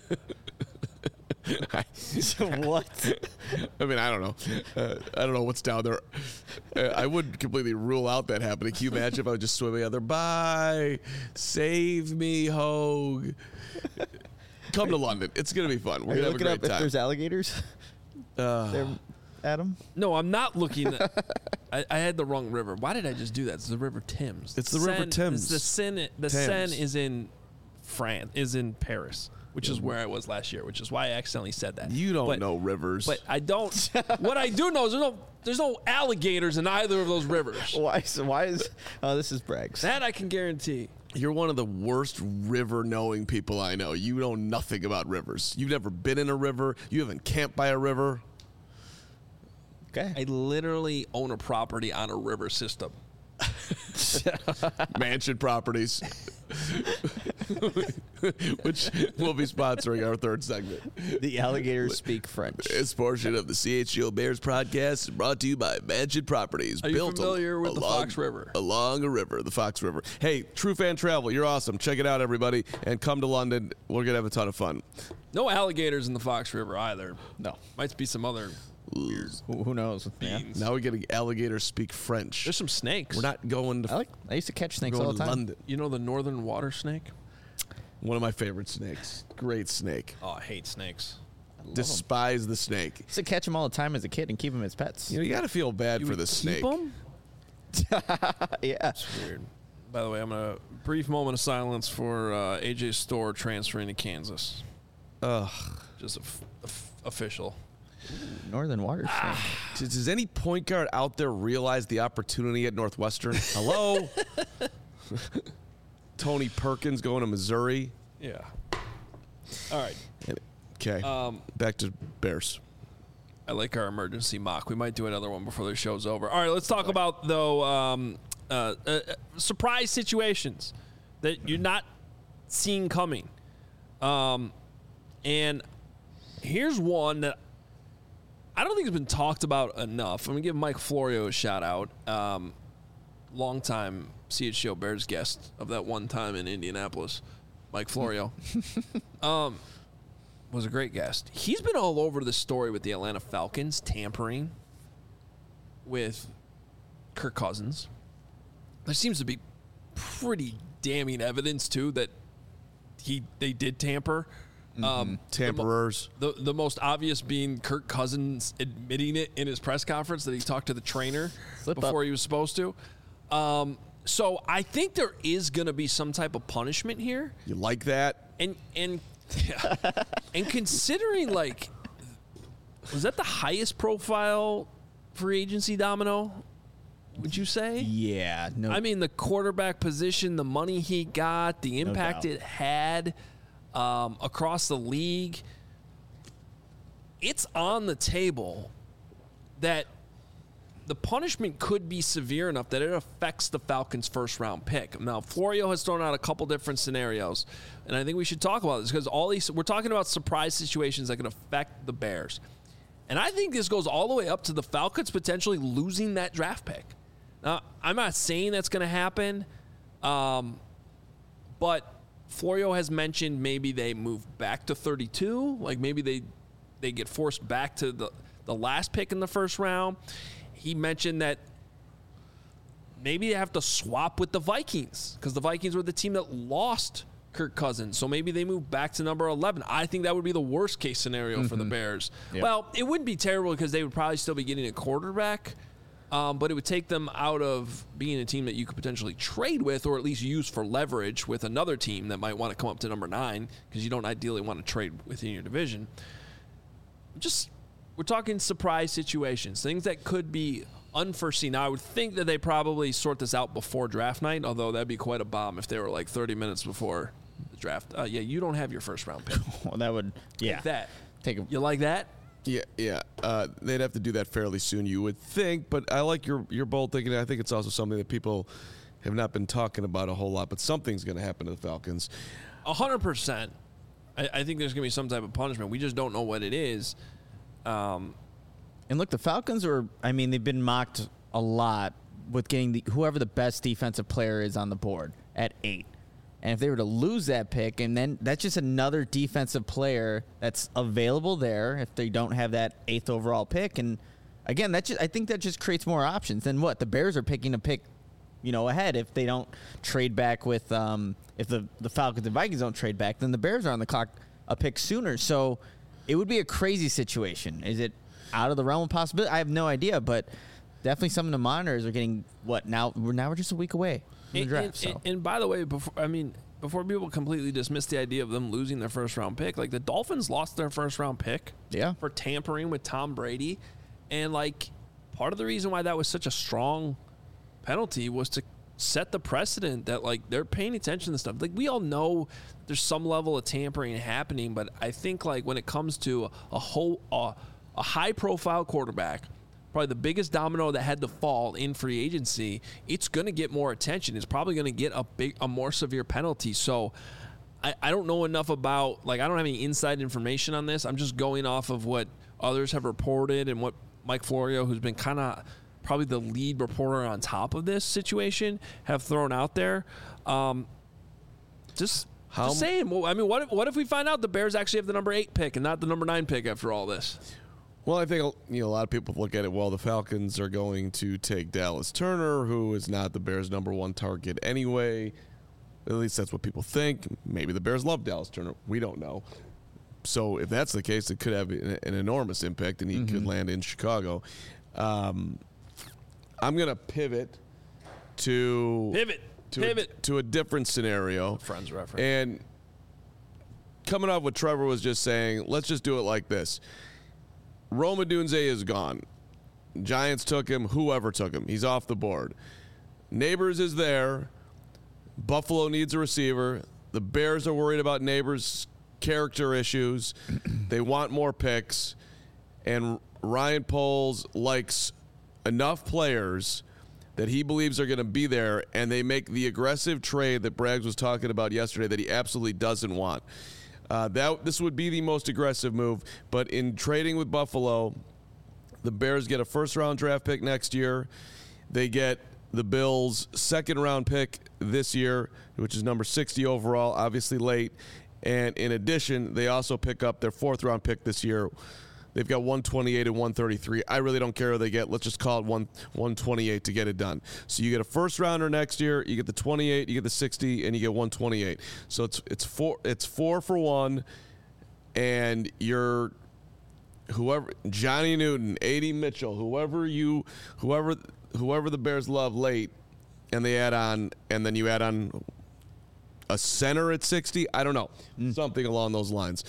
What?
I mean, I don't know. I don't know what's down there. I wouldn't completely rule out that happening. Can you imagine if I was just swimming out there? Bye. Save me, Hogue. Come to London. It's going to be fun. We're going to have a great
If
time.
there's alligators there, Adam?
No, I'm not looking. I had the wrong river. Why did I just do that? It's the River Thames.
It's the River Thames.
The Seine. The
Thames.
Seine is in France. Is in Paris, which is where I was last year. Which is why I accidentally said that.
You don't know rivers.
But I don't. What I do know is there's no alligators in either of those rivers.
Why is this is Braggs.
That I can guarantee.
You're one of the worst river-knowing people I know. You know nothing about rivers. You've never been in a river. You haven't camped by a river.
Okay.
I literally own a property on a river system.
Mansion Properties, which will be sponsoring our third segment.
The alligators speak French.
This portion of the CHGO Bears podcast is brought to you by Mansion Properties.
Are you familiar with the Fox River?
Along a river, the Fox River. Hey, True Fan Travel, you're awesome. Check it out, everybody, and come to London. We're going to have a ton of fun.
No alligators in the Fox River either.
No.
Might be some other
Who knows? Yeah.
beans.
Now we're getting alligators speak French.
There's some snakes.
We're not going to,
I used to catch snakes
going
all the
to
time.
London.
You know the northern water snake?
One of my favorite snakes. Great snake.
Oh, I hate snakes.
Despise the snake.
Used to catch them all the time as a kid and keep them as pets.
You know, you got to feel bad for
would
the
keep
snake.
'em?
Yeah.
Weird. By the way, I'm going to brief moment of silence for AJ Storr transferring to Kansas.
Ugh.
Just official.
Northern water snake.
Does any point guard out there realize the opportunity at Northwestern? Hello? Tony Perkins going to Missouri.
Yeah. All right.
Okay. Back to Bears.
I like our emergency mock. We might do another one before the show's over. All right, let's talk about, though, surprise situations that you're not seeing coming. And here's one that I don't think has been talked about enough. I'm going to give Mike Florio a shout-out. Longtime CHGO Bears guest of that one time in Indianapolis, Mike Florio. Was a great guest. He's been all over the story with the Atlanta Falcons tampering with Kirk Cousins. There seems to be pretty damning evidence, too, that they did tamper.
Tamperers.
The most obvious being Kirk Cousins admitting it in his press conference that he talked to the trainer before he was supposed to. So I think there is going to be some type of punishment here.
You like that?
And considering, like, was that the highest profile free agency, Domino? Would you say?
Yeah. No.
I mean, the quarterback position, the money he got, the impact it had across the league. It's on the table that the punishment could be severe enough that it affects the Falcons' first-round pick. Now, Florio has thrown out a couple different scenarios, and I think we should talk about this because we're talking about surprise situations that can affect the Bears. And I think this goes all the way up to the Falcons potentially losing that draft pick. Now, I'm not saying that's going to happen, but Florio has mentioned maybe they move back to 32, like maybe they get forced back to the last pick in the first round. He mentioned that maybe they have to swap with the Vikings because the Vikings were the team that lost Kirk Cousins. So maybe they move back to number 11. I think that would be the worst case scenario for the Bears. Yep. Well, it wouldn't be terrible because they would probably still be getting a quarterback, but it would take them out of being a team that you could potentially trade with or at least use for leverage with another team that might want to come up to number 9 because you don't ideally want to trade within your division. We're talking surprise situations, things that could be unforeseen. Now, I would think that they probably sort this out before draft night, although that'd be quite a bomb if they were like 30 minutes before the draft. Yeah, you don't have your first round pick.
Well, that would, yeah.
Like that.
You
like that?
Yeah. They'd have to do that fairly soon, you would think. But I like your bold thinking. I think it's also something that people have not been talking about a whole lot. But something's going to happen to the Falcons.
100%. I think there's going to be some type of punishment. We just don't know what it is.
And look, the Falcons they've been mocked a lot with getting whoever the best defensive player is on the board at 8. And if they were to lose that pick, and then that's just another defensive player that's available there if they don't have that 8th overall pick. And again, I think that just creates more options than what the Bears are picking a pick, ahead. If they don't trade back with, if the Falcons and Vikings don't trade back, then the Bears are on the clock a pick sooner. So it would be a crazy situation. Is it out of the realm of possibility? I have no idea, but definitely something to monitor. Is we're getting now we're just a week away from the draft.
And by the way, before people completely dismiss the idea of them losing their first round pick, like the Dolphins lost their first round pick for tampering with Tom Brady. And like part of the reason why that was such a strong penalty was to set the precedent that like they're paying attention to stuff. Like we all know there's some level of tampering happening, but I think like when it comes to a high profile quarterback, probably the biggest domino that had to fall in free agency, it's going to get more attention. It's probably going to get a more severe penalty. So I don't know enough about, like, I don't have any inside information on this. I'm just going off of what others have reported and what Mike Florio, who's been kind of probably the lead reporter on top of this situation, have thrown out there. Just saying. Well, I mean, what if we find out the Bears actually have the number 8 pick and not the number 9 pick after all this?
Well, I think a lot of people look at it, well, the Falcons are going to take Dallas Turner, who is not the Bears' number 1 target anyway. At least that's what people think. Maybe the Bears love Dallas Turner. We don't know. So if that's the case, it could have an enormous impact, and he could land in Chicago. I'm going to pivot to a different scenario.
Friends reference.
And coming off what Trevor was just saying, let's just do it like this. Rome Odunze is gone. Giants took him. Whoever took him. He's off the board. Neighbors is there. Buffalo needs a receiver. The Bears are worried about Neighbors' character issues. They want more picks. And Ryan Poles likes enough players that he believes are going to be there, and they make the aggressive trade that Braggs was talking about yesterday that he absolutely doesn't want. This would be the most aggressive move, but in trading with Buffalo, the Bears get a first-round draft pick next year. They get the Bills' second-round pick this year, which is number 60 overall, obviously late. And in addition, they also pick up their fourth-round pick this year. They've got 128 and 133. I really don't care who they get. Let's just call it 128 to get it done. So you get a first-rounder next year. You get the 28, you get the 60, and you get 128. So it's 4 for 1, and you're whoever, Johnny Newton, A.D. Mitchell, whoever the Bears love late, and they add on, and then you add on a center at 60. I don't know, something along those lines.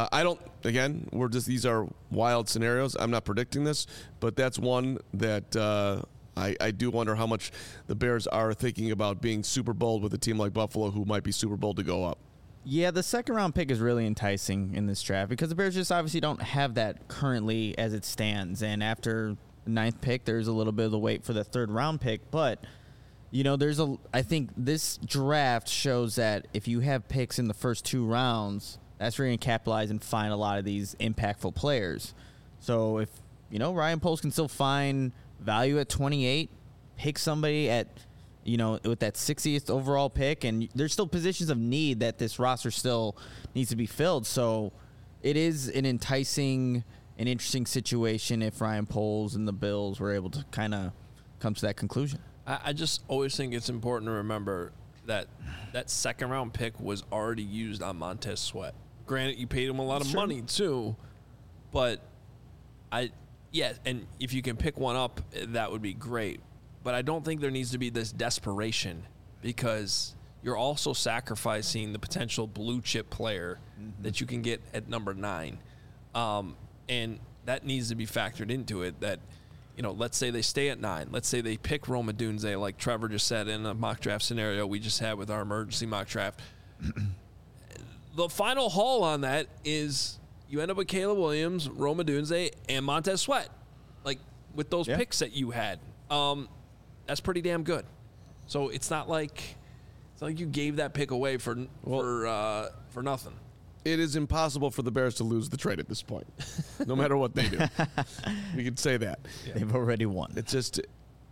These are wild scenarios. I'm not predicting this, but that's one that I do wonder how much the Bears are thinking about being super bold with a team like Buffalo, who might be super bold to go up.
Yeah, the second-round pick is really enticing in this draft because the Bears just obviously don't have that currently as it stands. And after the 9th pick, there's a little bit of the wait for the third-round pick. But, I think this draft shows that if you have picks in the first 2 rounds, that's where you're going to capitalize and find a lot of these impactful players. So if, Ryan Poles can still find value at 28, pick somebody at – with that 60th overall pick, and there's still positions of need that this roster still needs to be filled. So it is an enticing and interesting situation if Ryan Poles and the Bills were able to kind of come to that conclusion.
I just always think it's important to remember that second-round pick was already used on Montez Sweat. Granted, you paid him a lot of money too, but and if you can pick one up, that would be great. But I don't think there needs to be this desperation because you're also sacrificing the potential blue chip player that you can get at number 9. And that needs to be factored into it that, let's say they stay at 9. Let's say they pick Rome Odunze, like Trevor just said in a mock draft scenario we just had with our emergency mock draft. The final haul on that is you end up with Caleb Williams, Rome Odunze, and Montez Sweat. Like, with those picks that you had. That's pretty damn good. So it's not like you gave that pick away for nothing.
It is impossible for the Bears to lose the trade at this point, no matter what they do. We could say that.
They've already won.
It's just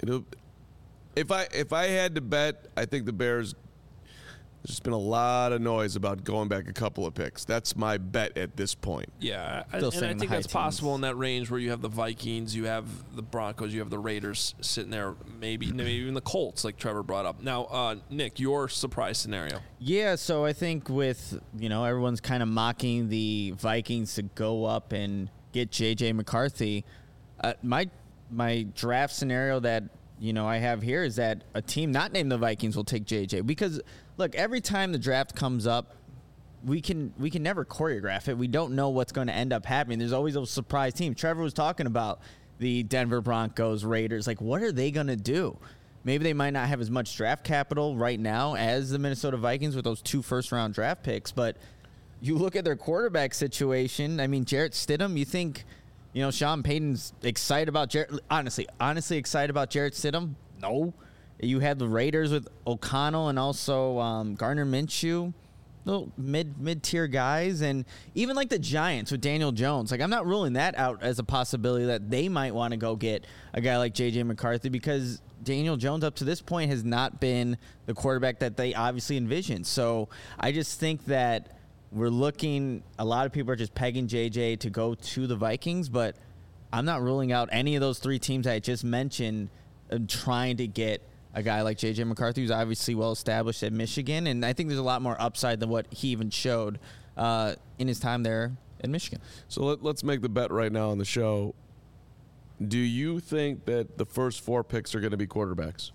If I had to bet, I think the Bears. There's just been a lot of noise about going back a couple of picks. That's my bet at this point.
Yeah,
Still
and I
saying the
think
high
that's possible
teens.
in that range where you have the Vikings, you have the Broncos, you have the Raiders sitting there, maybe even the Colts, like Trevor brought up. Now, Nick, your surprise scenario.
Yeah, so I think with, everyone's kind of mocking the Vikings to go up and get J.J. McCarthy. My draft scenario that, I have here is that a team not named the Vikings will take J.J. Because, look, every time the draft comes up, we can never choreograph it. We don't know what's going to end up happening. There's always those surprise teams. Trevor was talking about the Denver Broncos, Raiders. Like, what are they going to do? Maybe they might not have as much draft capital right now as the Minnesota Vikings with those 2 first-round draft picks. But you look at their quarterback situation. I mean, Jarrett Stidham, you think, Sean Payton's excited about Jarrett? Honestly excited about Jarrett Stidham? No. You had the Raiders with O'Connell and also Gardner Minshew, little mid-tier guys, and even like the Giants with Daniel Jones. Like, I'm not ruling that out as a possibility that they might want to go get a guy like J.J. McCarthy because Daniel Jones up to this point has not been the quarterback that they obviously envisioned. So I just think that we're looking, a lot of people are just pegging J.J. to go to the Vikings, but I'm not ruling out any of those 3 teams I just mentioned trying to get a guy like J.J. McCarthy, who's obviously well-established at Michigan, and I think there's a lot more upside than what he even showed in his time there in Michigan.
So let's make the bet right now on the show. Do you think that the first 4 picks are going to be quarterbacks?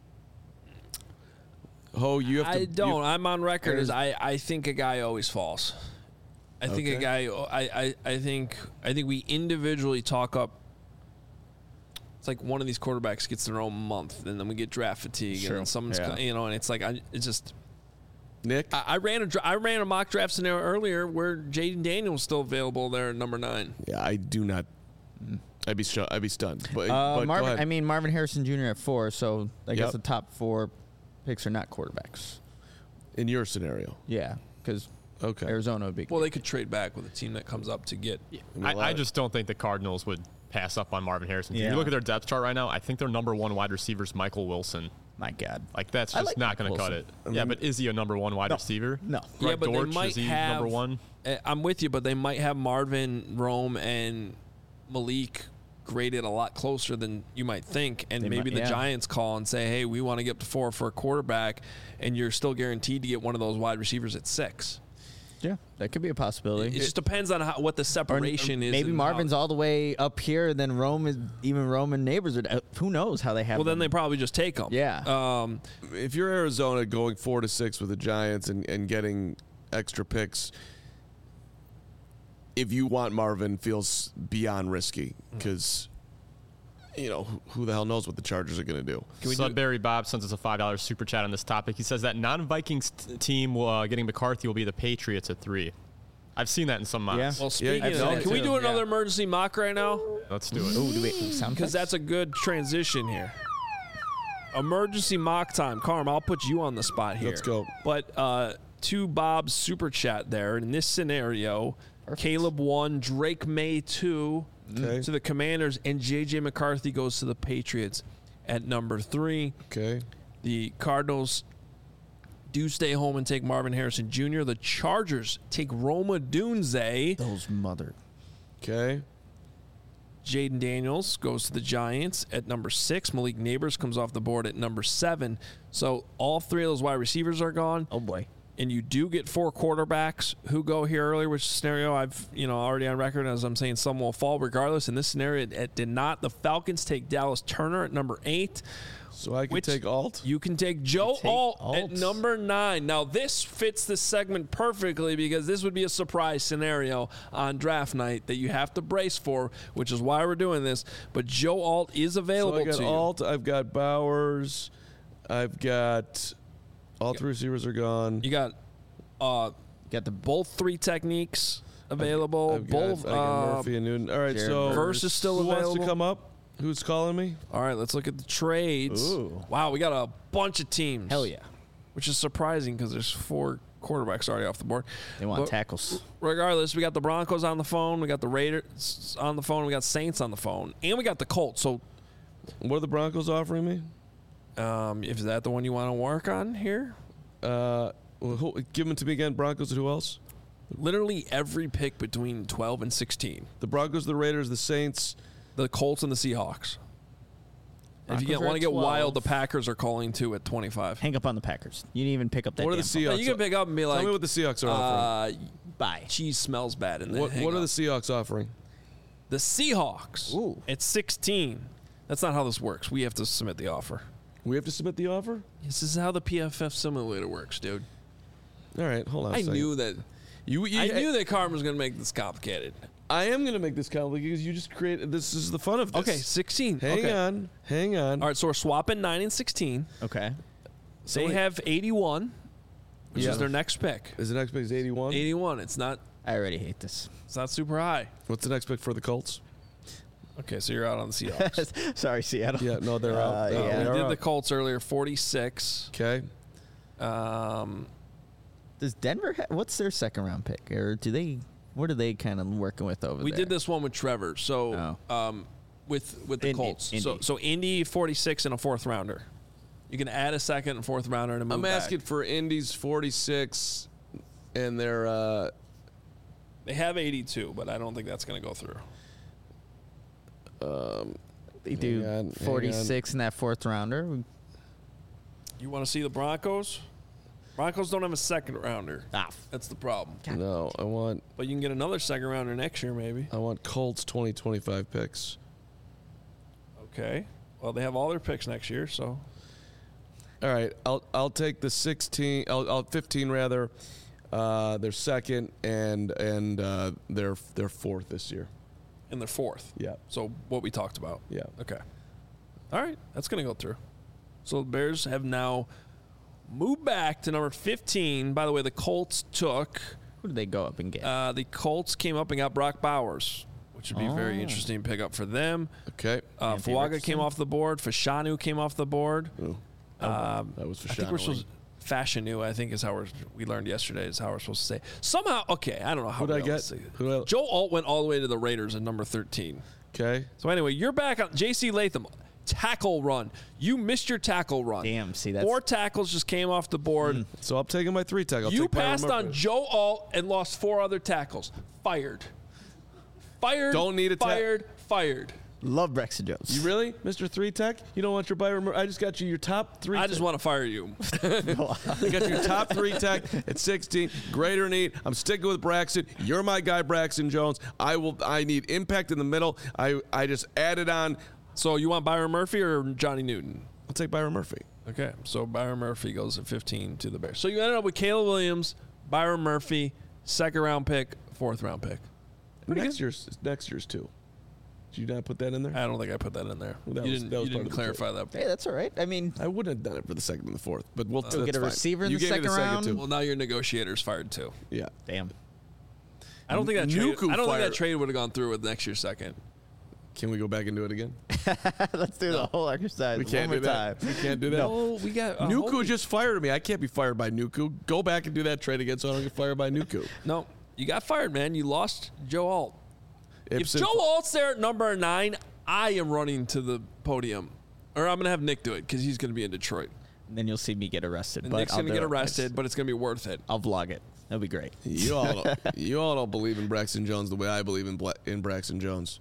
You have to.
I don't. I'm on record as I think a guy always falls. I think a guy. I think we individually talk up. It's like one of these quarterbacks gets their own month, and then we get draft fatigue, and then someone's and it's like it's just.
Nick,
I ran a mock draft scenario earlier where Jaden Daniels was still available there at number 9.
Yeah, I do not. I'd be stunned. But
Marvin,
go ahead.
I mean, Marvin Harrison Jr. at 4, so I guess the top 4 picks are not quarterbacks.
In your scenario,
Yeah, because Arizona would be.
Well, they could trade back with a team that comes up to get.
I just don't think the Cardinals would pass up on Marvin Harrison.
Yeah.
If you look at their depth chart right now, I think their number 1 wide receiver is Michael Wilson.
My God.
Like, that's
I
just
like
not going to cut
Wilson.
it. Yeah, but is he a number 1 wide receiver?
No.
Greg
Yeah, but
Dortch,
they might
is he
have
number 1?
I'm with you, but they might have Marvin, Rome, and Malik graded a lot closer than you might think, and maybe the Giants call and say, hey, we want to get up to 4 for a quarterback, and you're still guaranteed to get one of those wide receivers at 6.
Yeah, that could be a possibility.
It just depends on what the separation is.
Maybe
and
Marvin's all the way up here, and then Rome and Neighbors are. Who knows how they have?
Well, then
them.
they probably just take them.
Yeah.
If you're Arizona going 4 to 6 with the Giants and getting extra picks, if you want Marvin, feels beyond risky because. Who the hell knows what the Chargers are going to do.
Sudbury Bob sends us a $5 super chat on this topic. He says that non-Vikings team getting McCarthy will be the Patriots at 3. I've seen that in some mocks.
Yeah.
Well, speaking of
seen
that,
it
can we
too.
do another emergency mock right now?
Let's do it.
Ooh, do we sound
Because
effects?
that's a good transition here. Emergency mock time. Carm, I'll put you on the spot here.
Let's go.
But to Bob's super chat there, in this scenario, Caleb 1, Drake May 2 to the Commanders, and J.J. McCarthy goes to the Patriots at number 3.
Okay.
The Cardinals do stay home and take Marvin Harrison Jr. The Chargers take Rome Odunze.
Those mother.
Okay.
Jaden Daniels goes to the Giants at number 6. Malik Neighbors comes off the board at number 7. So all 3 of those wide receivers are gone.
Oh boy.
And you do get 4 quarterbacks who go here earlier, which scenario I've already on record as I'm saying some will fall regardless. In this scenario, it did not. The Falcons take Dallas Turner at number 8.
So I can take Alt?
You can take Joe Alt at number 9. Now, this fits this segment perfectly because this would be a surprise scenario on draft night that you have to brace for, which is why we're doing this. But Joe Alt is available
So I got
to you.
Alt, I've got Bowers, I've got all 3 receivers are gone.
You got both 3 techniques available.
I've got Murphy and Newton. All right,
Jared
so
Verse is still
who wants
available.
to come up? Who's calling me?
All right, let's look at the trades.
Ooh.
Wow, we got a bunch of teams.
Hell yeah.
Which is surprising because there's 4 quarterbacks already off the board.
They want
But
tackles.
Regardless, we got the Broncos on the phone. We got the Raiders on the phone. We got Saints on the phone. And we got the Colts. So
What are the Broncos offering me?
Is that the one you want to work on here?
Give them to me again. Broncos and who else?
Literally every pick between 12 and 16.
The Broncos, the Raiders, the Saints.
The Colts and the Seahawks. If you
Broncos are
want to
at
get
12.
wild, the Packers are calling too at 25.
Hang up on the Packers. You didn't even pick up that.
What are the
damn phone.
Seahawks?
You can pick up and be like,
Tell me what the Seahawks are offering.
Bye.
cheese smells bad in there.
What are the Seahawks offering?
The Seahawks?
Ooh.
It's 16. That's not how this works. We have to submit the offer.
We have to submit the offer?
This is how the PFF simulator works, dude.
All right, hold on a
I
second.
knew that. I knew that Carmen was going to make this complicated.
I am going to make this complicated because you just created. This is the fun of this.
Okay, 16.
Hang on.
All right, so we're swapping 9 and 16.
Okay.
They have 81, which
Yeah.
is their next pick.
Is the next pick 81?
81. It's not
I already hate this.
super high.
What's the next pick for the Colts?
Okay, so you're out on the Seahawks.
Sorry, Seattle.
Yeah, no, they're out.
yeah.
We
They're
did
out.
the Colts earlier, 46.
Okay.
Does Denver? What's their second round pick, or do they? What are they kind of working with over
We
there?
did this one with Trevor. So with the
Indy.
Colts.
Indy.
So Indy 46 and a fourth rounder. You can add a second and fourth rounder to move
I'm
back.
asking for Indy's 46 and their.
They have 82, but I don't think that's going to go through.
They do
hang on.
46 in that fourth rounder.
You want to see the Broncos? Broncos don't have a second rounder. That's the problem.
No, I want
But you can get another second rounder next year, maybe.
Colts 2025 picks.
Okay. Well, they have all their picks next year, so
All right, I'll take the 16. I'll 15 rather. Their second and their fourth this year.
in their fourth.
Yeah.
So what we talked about.
Yeah.
Okay. All right. That's going to go through. So the Bears have now moved back to number 15. By the way, the Colts took.
Who did they go up and get?
The Colts came up and got Brock Bowers, which would be a very
Oh.
interesting pickup for them.
Okay.
Anthony
Fuaga
Richardson.
came off the board. Fashanu came off the board.
Ooh.
That
was for
I think we're supposed Fashanu, I think is how we learned yesterday is how we're supposed to say. Somehow, okay, I don't know how
Who'd I
we
get?
else say it.
Who else?
Joe Alt went all the way to the Raiders at number 13.
Okay.
So anyway, you're back on J.C. Latham. Tackle run. You missed your tackle run.
Damn, see, that's-
4 tackles just came off the board.
So I'm taking my 3 tackle.
You passed on Joe Alt and lost 4 other tackles. Fired.
Don't need a
fired. Fired.
Love Braxton Jones.
You really, Mr. 3 Tech? You don't want your Byron? I just got you your top 3.
I just want to fire you.
I got your top 3 tech at 16. Greater need. I'm sticking with Braxton. You're my guy, Braxton Jones. I need impact in the middle. I just added on.
So you want Byron Murphy or Johnny Newton?
I'll take Byron Murphy.
Okay, so Byron Murphy goes at 15 to the Bears. So you ended up with Caleb Williams, Byron Murphy, second round pick, fourth round pick.
Next year's too. Did you not put that in there?
I don't think I put that in there.
That
you
was
didn't,
part
you
of
didn't
the
clarify that.
Hey, that's all right. I mean,
I wouldn't have done it for the second and the fourth, but we'll
You'll get
that's
a
fine.
receiver in
You
the
gave me
second round?
too.
Well, now your negotiator's fired too.
Yeah.
damn.
I don't think that trade,
Nuku
I don't think
fired.
that trade would have gone through with next year's second.
Can we go back and do it again?
Let's do the whole exercise
We can't
one
do
more
that.
time.
We can't do that.
No, we got
Nuku just fired me. I can't be fired by Nuku. Go back and do that trade again so I don't get fired by Nuku.
No, you got fired, man. You lost Joe Alt.
Ibsen-
If Joe Alt's there at number 9, I am running to the podium. Or I'm going to have Nick do it because he's going to be in Detroit.
And then you'll see me get arrested.
And
but
Nick's
I'll
going to
do
get
it.
arrested, but it's going to be worth it.
I'll vlog it. That'll be great.
You all don't believe in Braxton Jones the way I believe in Braxton Jones.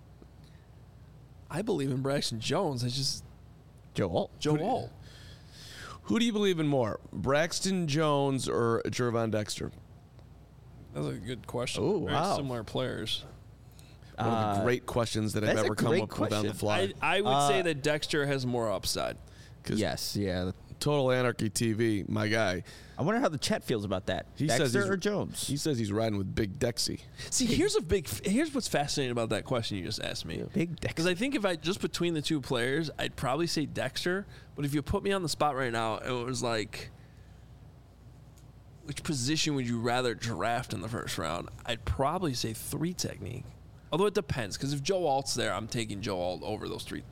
I believe in Braxton Jones. It's just
Joe Alt.
Joe Alt.
Who do you believe in more, Braxton Jones or Jervon Dexter?
That's a good question.
Ooh,
Very
wow.
similar players.
One of the great questions that I've
that's a
ever come
great
up with on the
question.
fly.
I would say that Dexter has more upside.
'Cause
Yes, yeah.
Total Anarchy TV, my guy.
I wonder how the chat feels about that.
He
Dexter
says he's-
or Jones?
He says he's riding with Big Dexy.
See, here's what's fascinating about that question you just asked me.
Big
Because
Dexter.
I think if I just between the two players, I'd probably say Dexter. But if you put me on the spot right now, it was like, which position would you rather draft in the first round? I'd probably say 3 technique. Although it depends, because if Joe Alt's there, I'm taking Joe Alt over those 3.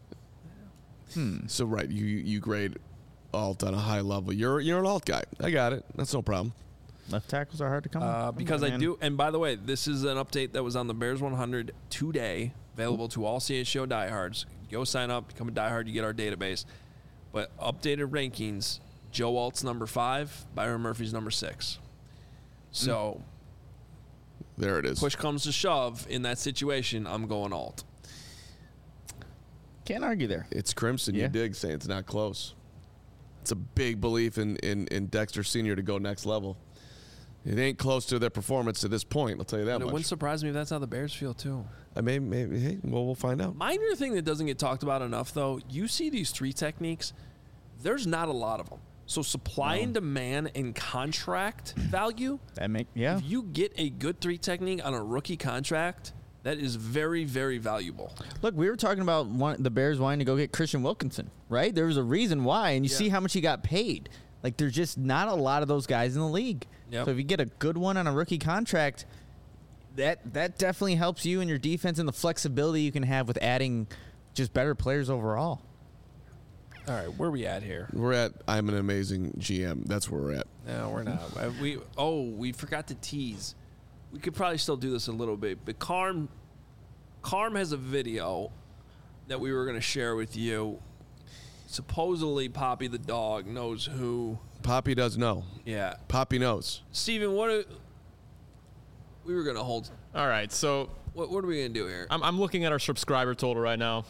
So right, you grade alt on a high level. You're an alt guy. I got it. That's no problem.
Left tackles are hard to come.
Because I do, and by the way, this is an update that was on the Bears 100 today, available to all CHGO diehards. Go sign up, become a diehard, you get our database. But updated rankings, Joe Alt's number 5, Byron Murphy's number 6. So
there it is.
push comes to shove in that situation, I'm going Alt.
Can't argue there.
It's Crimson.
Yeah.
You dig saying it's not close. It's a big belief in Dexter Sr. to go next level. It ain't close to their performance to this point. I'll tell you that
And it
much.
wouldn't surprise me if that's how the Bears feel too.
Maybe. Hey, well, we'll find out.
Minor thing that doesn't get talked about enough, though, you see these 3 techniques, there's not a lot of them. So supply and demand and contract value, if you get a good 3 technique on a rookie contract, that is very, very valuable.
Look, we were talking about the Bears wanting to go get Christian Wilkinson, right? There was a reason why, and you see how much he got paid. Like, there's just not a lot of those guys in the league.
Yep.
So if you get a good one on a rookie contract, that definitely helps you and your defense and the flexibility you can have with adding just better players overall.
All right, where are we at here?
We're at I'm an amazing GM. That's where we're at.
No, we're not. We forgot to tease. We could probably still do this a little bit, but Carm has a video that we were going to share with you. Supposedly, Poppy the dog knows who.
Poppy does know.
Yeah.
Poppy knows.
Steven, we were going to hold.
All right, so
What are we going to do here?
I'm looking at our subscriber total right now,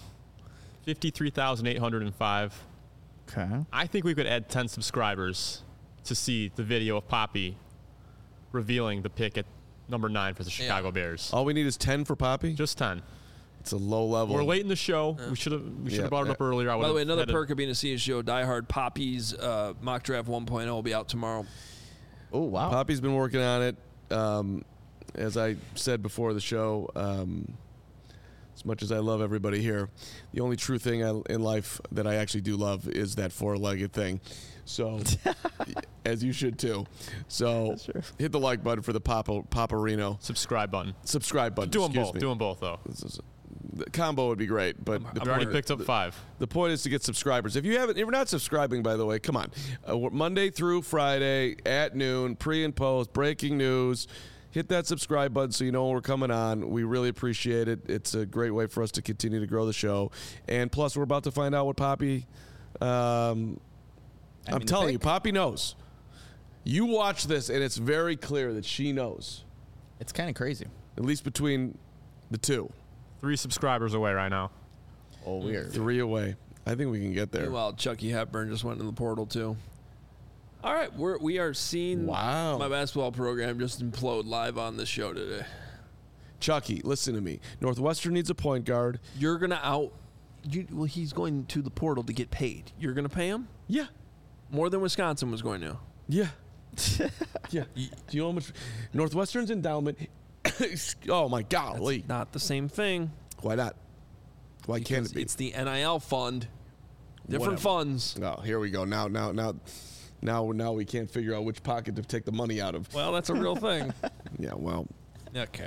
53,805.
Okay.
I think we could add 10 subscribers to see the video of Poppy revealing the pick at number 9 for the Chicago Bears.
All we need is 10 for Poppy.
Just 10.
It's a low level.
We're late in the show. We should have brought it up earlier.
By the way, another perk of being a CSGO diehard, Poppy's mock draft 1.0 will be out tomorrow.
Oh, wow.
Poppy's been working on it. As I said before the show, as much as I love everybody here, the only true thing in life that I actually do love is that 4-legged thing. So, as you should too. So, hit the like button for the Paparino.
subscribe button.
Subscribe button.
Do them
excuse
both.
me.
Do them both, though.
The combo would be great, but
We've already picked up 5.
The point is to get subscribers. If you're not subscribing, by the way, come on. Monday through Friday at noon, pre and post, breaking news. Hit that subscribe button so you know when we're coming on. We really appreciate it. It's a great way for us to continue to grow the show. And plus, we're about to find out what Poppy. I'm telling you, Poppy knows. You watch this, and it's very clear that she knows.
It's kind of crazy.
At least between the two.
3 subscribers away right now.
Oh, weird.
3 away. I think we can get there.
Meanwhile, Chucky Hepburn just went in the portal too. All right, we are seeing my basketball program just implode live on this show today.
Chucky, listen to me. Northwestern needs a point guard.
You're gonna he's going to the portal to get paid. You're gonna pay him
Yeah.
more than Wisconsin was going to.
Yeah. Yeah. Do you know how much Northwestern's endowment? Oh my golly!
Not the same thing.
Why not? Why can't it be?
It's the NIL fund. Different
Whatever.
funds.
Oh, here we go. Now we can't figure out which pocket to take the money out of.
Well, that's a real thing.
Yeah. Well.
Okay.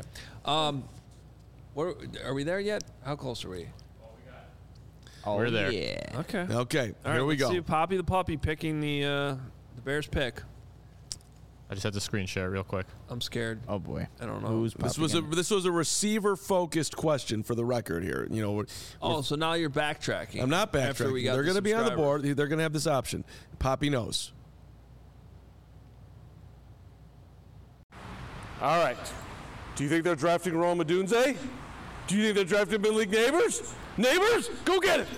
Are we there yet? How close are we?
We're there.
Yeah.
Okay.
Okay.
All right,
here we
let's
go.
see Poppy the puppy picking the Bears pick.
I just had to screen share real quick.
I'm scared.
Oh, boy.
I don't know.
Who's
This
Poppy
was a receiver focused question for the record here. You know.
So now you're backtracking.
I'm not
After we
backtracking.
got
They're going to be on the
subscriber.
board. They're going to have this option. Poppy knows.
All right. Do you think they're drafting Rome Odunze? Do you think they're drafting Mid-League Neighbors? Neighbors, go get it!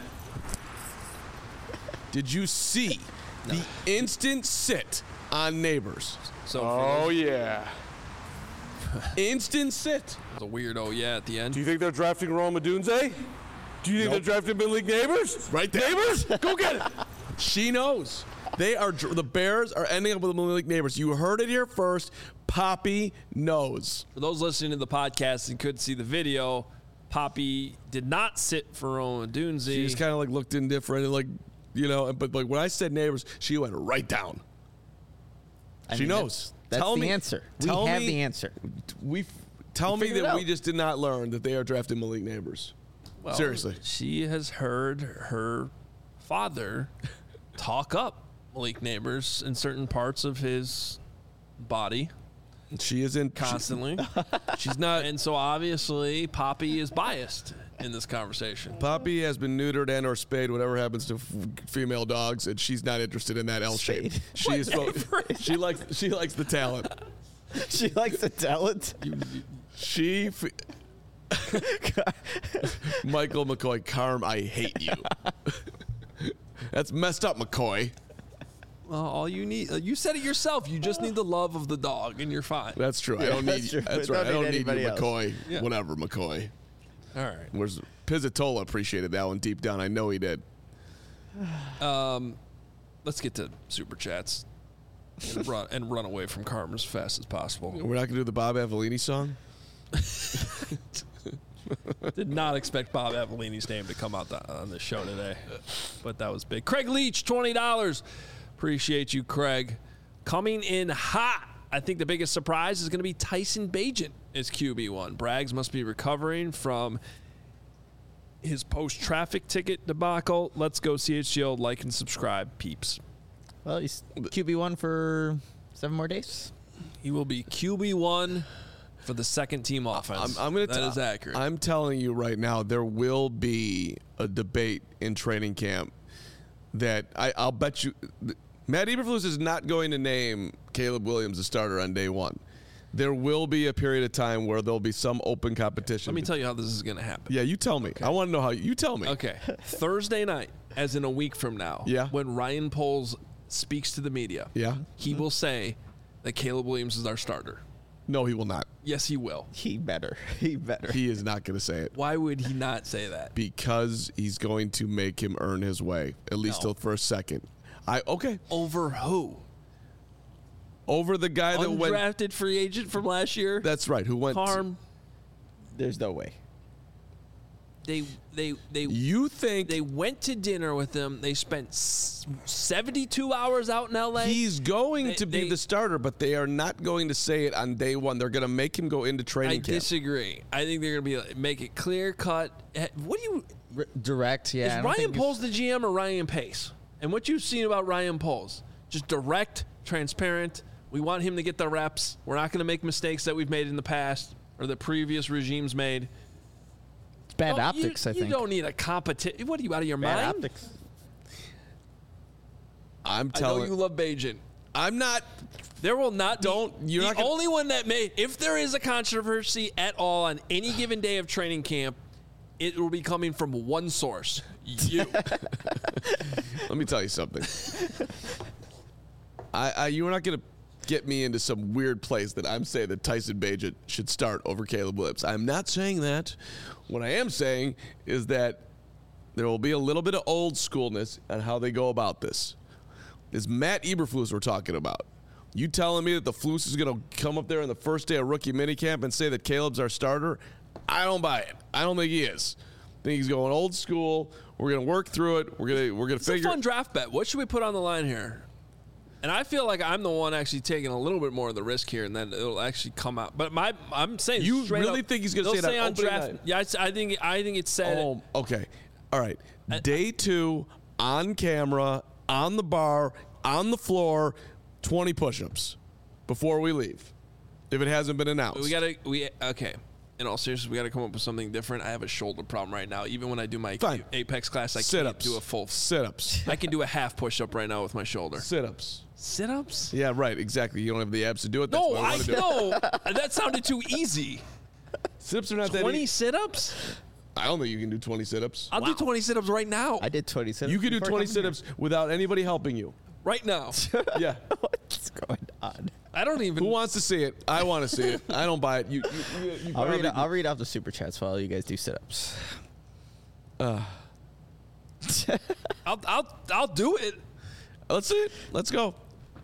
Did you see the instant sit on Neighbors?
So
Oh, yeah.
Instant sit.
it's a weird at the end.
Do you think they're drafting Rome Odunze? Do you think they're drafting Mid-League Neighbors?
Right there.
Neighbors, go get it!
She knows. The Bears are ending up with the Mid-League Neighbors. You heard it here first. Poppy knows.
For those listening to the podcast and couldn't see the video, Poppy did not sit for Rowan Dunze.
She just kind of looked indifferent and but when I said Neighbors, she went right down. She knows.
That's
Tell
the
me-
answer. We
tell
have
me-
the answer.
Tell me
figured it
that we
out.
just did not learn that they are drafting Malik Neighbors.
Well,
Seriously.
She has heard her father talk up Malik Neighbors in certain parts of his body
She is in
constantly.
she's not.
And so obviously Poppy is biased. in this conversation.
Poppy has been neutered and or spayed, whatever happens to female dogs, and she's not interested in that L shape.
Spayed.
She likes the talent.
She likes the talent.
Michael McCoy, Carm, I hate you. That's messed up, McCoy.
Well, all you need, you said it yourself. You just need the love of the dog, and you're fine.
That's true. I don't need you. That's right. I don't need you, McCoy.
Yeah.
Whatever, McCoy.
All right.
Where's Pizzatola appreciated that one deep down. I know he did.
Let's get to super chats and run away from Carm as fast as possible.
We're not going to do the Bob Avellini song?
Did not expect Bob Avellini's name to come out on the show today, but that was big. Craig Leach, $20. Appreciate you, Craig. Coming in hot. I think the biggest surprise is going to be Tyson Bagent as QB1. Braggs must be recovering from his post-traffic ticket debacle. Let's go CHGO. Like and subscribe, peeps.
Well, he's QB1 for 7 more days.
He will be QB1 for the second team offense. That is accurate.
I'm telling you right now, there will be a debate in training camp that I'll bet you Matt Eberflus is not going to name Caleb Williams a starter on day one. There will be a period of time where there'll be some open competition.
Let me tell you how this is going to happen.
Yeah, you tell me. Okay. I want to know how you tell me.
Okay. Thursday night, as in a week from now, when Ryan Poles speaks to the media, he will say that Caleb Williams is our starter.
No, he will not.
Yes, he will.
He better.
He is not going to say it.
Why would he not say that?
Because he's going to make him earn his way, at least till for a second. Okay.
Over who?
Over the guy that went
undrafted free agent from last year.
That's right. Who went?
Carm.
There's no way.
You think
they went to dinner with him? They spent 72 hours out in L.A.
He's going to be the starter, but they are not going to say it on day one. They're going to make him go into training camp.
I disagree. I think they're going to make it clear cut. What do you
direct? Yeah.
Is Ryan Poles the GM or Ryan Pace? And what you've seen about Ryan Poles, just direct, transparent. We want him to get the reps. We're not going to make mistakes that we've made in the past or the previous regimes made.
It's bad optics, I think.
You don't need a competition. What are you, out of your
bad
mind?
Optics.
I'm telling
I know you love Bagent.
I'm not.
There will not
You're
the
not gonna,
only one that may. If there is a controversy at all on any given day of training camp, it will be coming from one source. You.
Let me tell you something. You're not going to get me into some weird place that I'm saying that Tyson Bagent should start over Caleb Williams. I'm not saying that. What I am saying is that there will be a little bit of old schoolness on how they go about this. It's Matt Eberflus we're talking about. You telling me that the Flus is going to come up there on the first day of rookie minicamp and say that Caleb's our starter? I don't buy it. I don't think he is. I think he's going old school. We're going to work through it. We're going to figure.
It's a fun draft bet. What should we put on the line here? And I feel like I'm the one actually taking a little bit more of the risk here, and then it'll actually come out. But I'm saying
you
really
think he's going to say that
on draft night? Yeah, I think it's said.
Oh, okay. All right. Day 2, on camera, on the bar, on the floor, 20 push-ups before we leave. If it hasn't been announced,
okay. In all seriousness, we got to come up with something different. I have a shoulder problem right now. Even when I do my Apex class, I can't do a full
sit-ups.
I can do a half push-up right now with my shoulder.
Sit-ups.
Sit-ups?
Yeah, right. Exactly. You don't have the abs to do it. That's
no,
what I want to do.
No. That sounded too easy.
Sit-ups are not
20 sit-ups?
I don't think you can do 20 sit-ups.
I'll do 20 sit-ups right now.
I did 20 sit-ups.
You can do 20 sit-ups without anybody helping you.
Right now.
Yeah.
What's going on?
I don't even.
Who wants to see it? I want to see it. I don't buy it.
I'll read off the super chats while you guys do sit-ups.
I'll do it.
Let's see it. Let's go.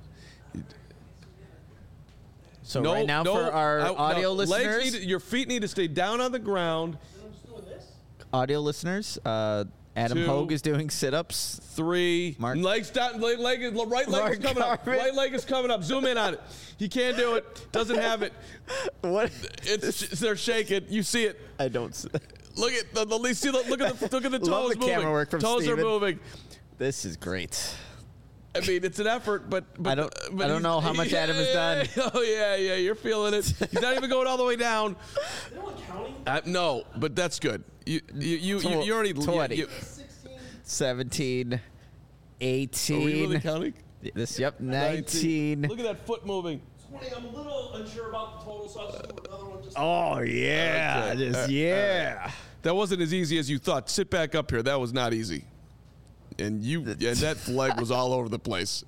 So right now for our audio listeners,
your feet need to stay down on the ground.
Audio listeners, Adam Hogue is doing sit-ups.
3.
Mark.
Legs down. Right leg is coming up. Right leg is coming up. Zoom in on it. He can't do it. Doesn't have it.
What?
They're shaking. You see it.
I don't.
Look at the look at the toes
Love the
moving.
camera work from
Toes
Steven.
are moving.
This is great.
I mean, it's an effort, but
I don't know how much Adam has done.
Oh yeah, you're feeling it. He's not even going all the way down. No, but that's good. You already
20, 17, 18.
Are we really counting?
19.
Look at that foot moving.
20. I'm a little unsure about the total, so I'll just do another one.
Oh yeah,
Okay. That wasn't as easy as you thought. Sit back up here. That was not easy. And that leg was all over the place.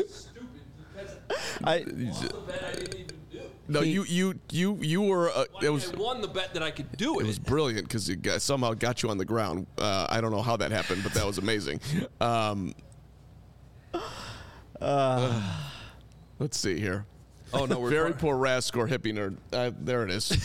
I
didn't even do.
No, you were. It was.
I won the bet that I could do it.
It was brilliant because it somehow got you on the ground. I don't know how that happened, but that was amazing. Let's see here.
Oh no, we're
Very poor RAS score, hippie nerd. There it is.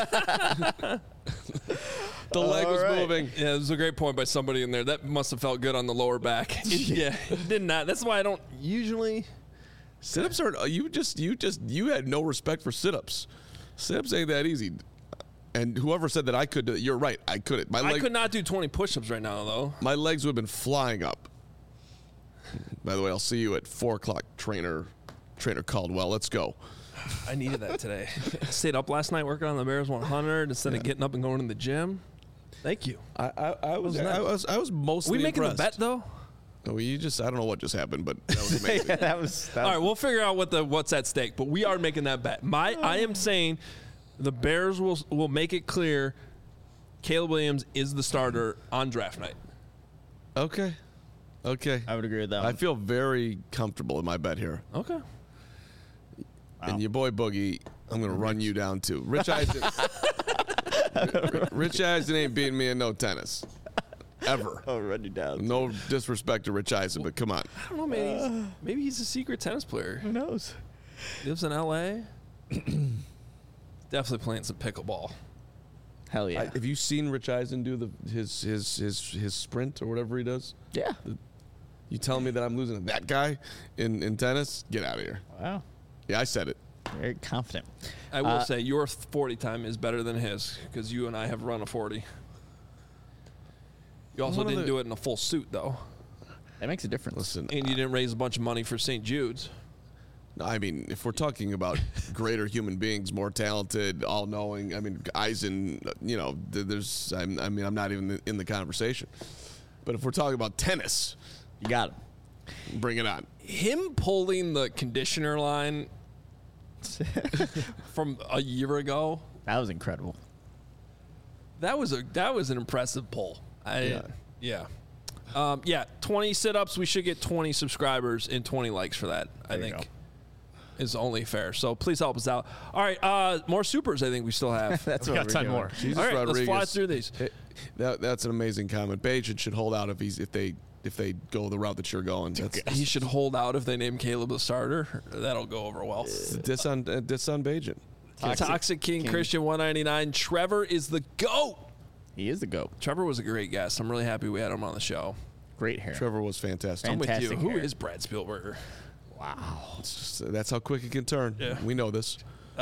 The leg was moving.
Yeah, it was a great point by somebody in there. That must have felt good on the lower back. It did not. That's why I don't usually.
Sit-ups are you had no respect for sit-ups. Sit-ups ain't that easy. And whoever said that I could do it, you're right. I couldn't.
I could not do 20 push-ups right now, though.
My legs would have been flying up. By the way, I'll see you at 4 o'clock, Trainer Caldwell. Let's go.
I needed that today. I stayed up last night working on the Bears 100 instead of getting up and going to the gym. Thank you.
I was mostly
We making
impressed.
the bet though?
No, I don't know what just happened, but that was amazing.
that was
All right, we'll figure out what's at stake, but we are making that bet. I am saying the Bears will make it clear Caleb Williams is the starter on draft night.
Okay.
I would agree with that.
I feel very comfortable in my bet here.
Okay.
And your boy Boogie, I'm going to run you down too. Rich Eisen. Rich Eisen ain't beating me in no tennis. Ever.
I'll run you down.
No disrespect to Rich Eisen, but come on.
I don't know, man. Maybe he's a secret tennis player.
Who knows?
Lives in L.A. Definitely playing some pickleball.
Hell yeah.
Have you seen Rich Eisen do his sprint or whatever he does?
Yeah.
You telling me that I'm losing to that guy in tennis? Get out of here.
Wow.
Yeah, I said it.
Very confident.
I will say your 40 time is better than his because you and I have run a 40. You also didn't do it in a full suit, though.
That makes a difference.
Listen,
And you didn't raise a bunch of money for St. Jude's.
I mean, if we're talking about greater human beings, more talented, all-knowing, I mean, Eisen, I'm not even in the conversation. But if we're talking about tennis,
You got him.
bring it on.
Him pulling the conditioner line from a year ago,
That was incredible.
that was an impressive pull. Yeah. 20 sit-ups. We should get 20 subscribers and 20 likes for that. I
There you
think is only fair. So please help us out. All right, more supers. I think we still have.
That's
We
what
got
we're
10
doing.
more.
Jesus
All right,
Rodriguez.
let's fly through these.
That's an amazing comment. Bajan should hold out if they go the route that you're going. That's
He should hold out if they name Caleb the starter. That'll go over well.
diss on Bajan.
Toxic King Christian 199. Trevor is the GOAT.
He is the GOAT.
Trevor was a great guest. I'm really happy we had him on the show.
Great hair.
Trevor was fantastic.
I'm with you.
Fantastic
Who
hair.
is Brad Spielberger?
Wow.
That's how quick it can turn.
Yeah.
We know this.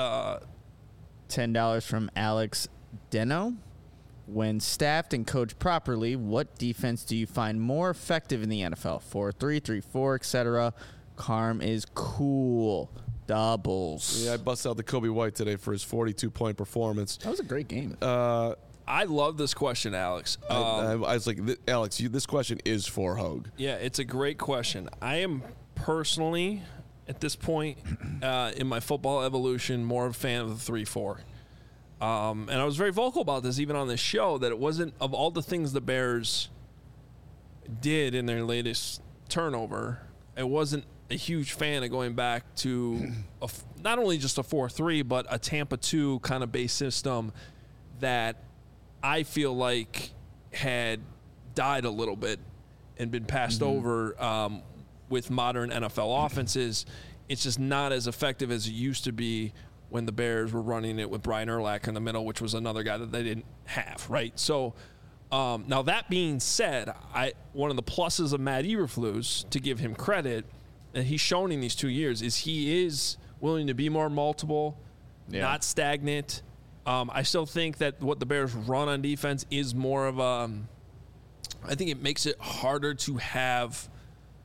$10 from Alex Deno. When staffed and coached properly, what defense do you find more effective in the NFL? 4-3, 3-4, etc. Carm is cool. Doubles.
Yeah, I bust out the Kobe White today for his 42-point performance.
That was a great game.
I love this question, Alex.
I was like, Alex, this question is for Hogue.
Yeah, it's a great question. I am personally, at this point in my football evolution, more of a fan of the 3-4. And I was very vocal about this even on this show, that it wasn't, of all the things the Bears did in their latest turnover, it wasn't a huge fan of going back to not only just a 4-3, but a Tampa 2 kind of base system that I feel like had died a little bit and been passed over with modern NFL offenses. It's just not as effective as it used to be when the Bears were running it with Brian Urlacher in the middle, which was another guy that they didn't have, right? So now that being said, one of the pluses of Matt Eberflus, to give him credit, that he's shown in these 2 years, is he is willing to be more multiple, not stagnant. I still think that what the Bears run on defense is more of a I think it makes it harder to have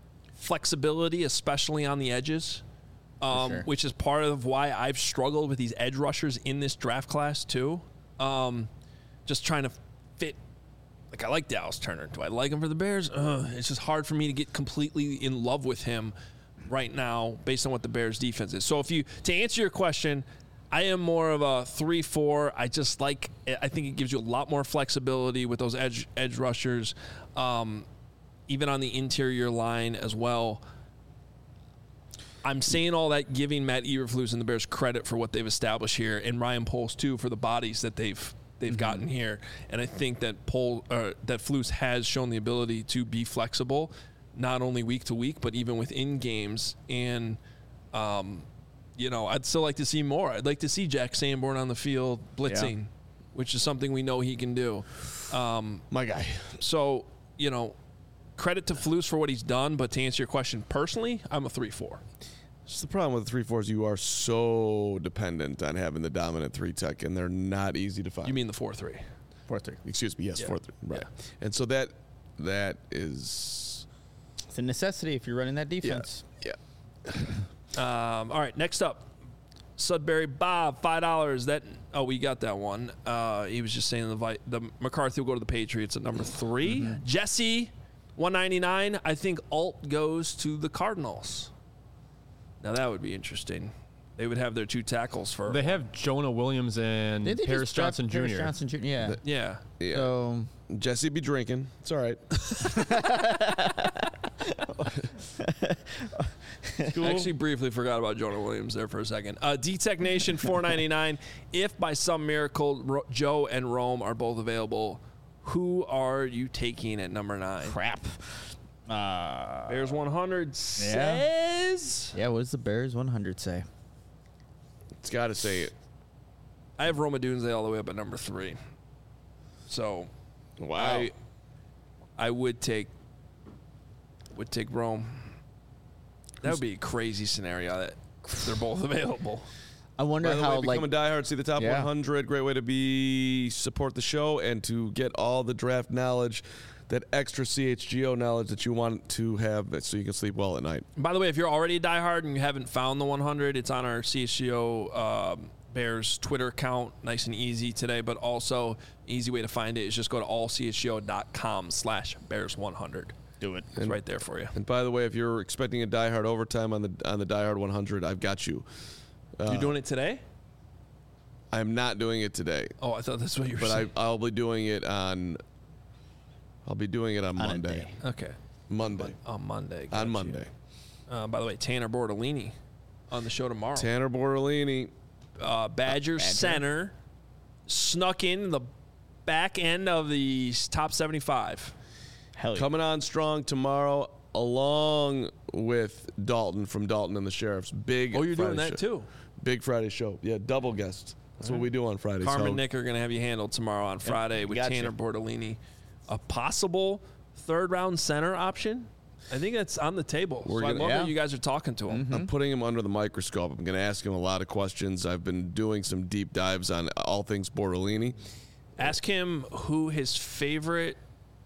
flexibility, especially on the edges,
sure.
which is part of why I've struggled with these edge rushers in this draft class too. Just trying to fit. Like, I like Dallas Turner. Do I like him for the Bears? It's just hard for me to get completely in love with him right now based on what the Bears defense is. So to answer your question, I am more of a 3-4. I think it gives you a lot more flexibility with those edge rushers, even on the interior line as well. I'm saying all that, giving Matt Eberflus and the Bears credit for what they've established here, and Ryan Poles too for the bodies that they've gotten here. And I think that that Flus has shown the ability to be flexible, not only week to week, but even within games. And I'd still like to see more. I'd like to see Jack Sanborn on the field blitzing, which is something we know he can do.
My guy.
So, credit to Flus for what he's done, but to answer your question personally, I'm a 3-4.
Just the problem with the 3-4s, you are so dependent on having the dominant 3 tech, and they're not easy to find.
You mean the 4-3?
4-3.
Excuse me. Yes,
Yeah.
4-3. Right.
Yeah.
And so that is.
It's a necessity if you're running that defense.
Yeah.
All right, next up, Sudbury Bob, $5. We got that one. He was just saying the McCarthy will go to the Patriots at number 3.
Mm-hmm.
Jesse, $199. I think Alt goes to the Cardinals. Now that would be interesting. They would have their 2 tackles for.
They have Jonah Williams and
Did they
Paris
just draft
Johnson Jr.
Paris Johnson Jr. Yeah.
Yeah.
Yeah.
So
Jesse be drinking. It's all right.
I actually briefly forgot about Jonah Williams there for a second. D-Tech Nation, $4.99. If by some miracle Joe and Rome are both available, who are you taking at number 9?
crap.
Bears 100 says.
Yeah, what does the Bears 100 say?
It's got to say it.
I have Roma Dunze all the way up at number 3. So,
Wow.
I would take Rome. That would be a crazy scenario that they're both available.
I wonder
By the
how
way, become a diehard, see the top
Yeah.
100. Great way to support the show and to get all the draft knowledge, that extra CHGO knowledge that you want to have so you can sleep well at night.
By the way, if you're already a diehard and you haven't found the 100, it's on our CHGO Bears Twitter account. Nice and easy today, but also easy way to find it is just go to allchgo.com/Bears100.
do it.
It's right there for you.
And by the way, if you're expecting a diehard overtime on the diehard 100, I've got you.
You're doing it today?
I'm not doing it today,
Oh, I thought that's what you were
but
saying.
I'll be doing it on. I'll be doing it on
On a
Monday.
day.
Okay.
Monday.
On Monday.
On
Got you.
Monday.
By the way, Tanner Bortolini on the show tomorrow.
Tanner Bortolini.
Badger center snuck in the back end of the top 75.
Hell yeah.
Coming on strong tomorrow, along with Dalton from Dalton and the Sheriffs. Big.
Oh, you're doing
Friday
that
show.
too.
Big Friday show. Yeah, double guest. That's what we do on Fridays.
Carmen
So-
and Nick are going to have you handled tomorrow on Friday with
gotcha.
Tanner Bortolini. A possible third-round center option? I think that's on the table.
We're
So I
gonna-
love
yeah.
that you guys are talking to him.
I'm putting him under the microscope. I'm going to ask him a lot of questions. I've been doing some deep dives on all things Bortolini.
Ask him who his favorite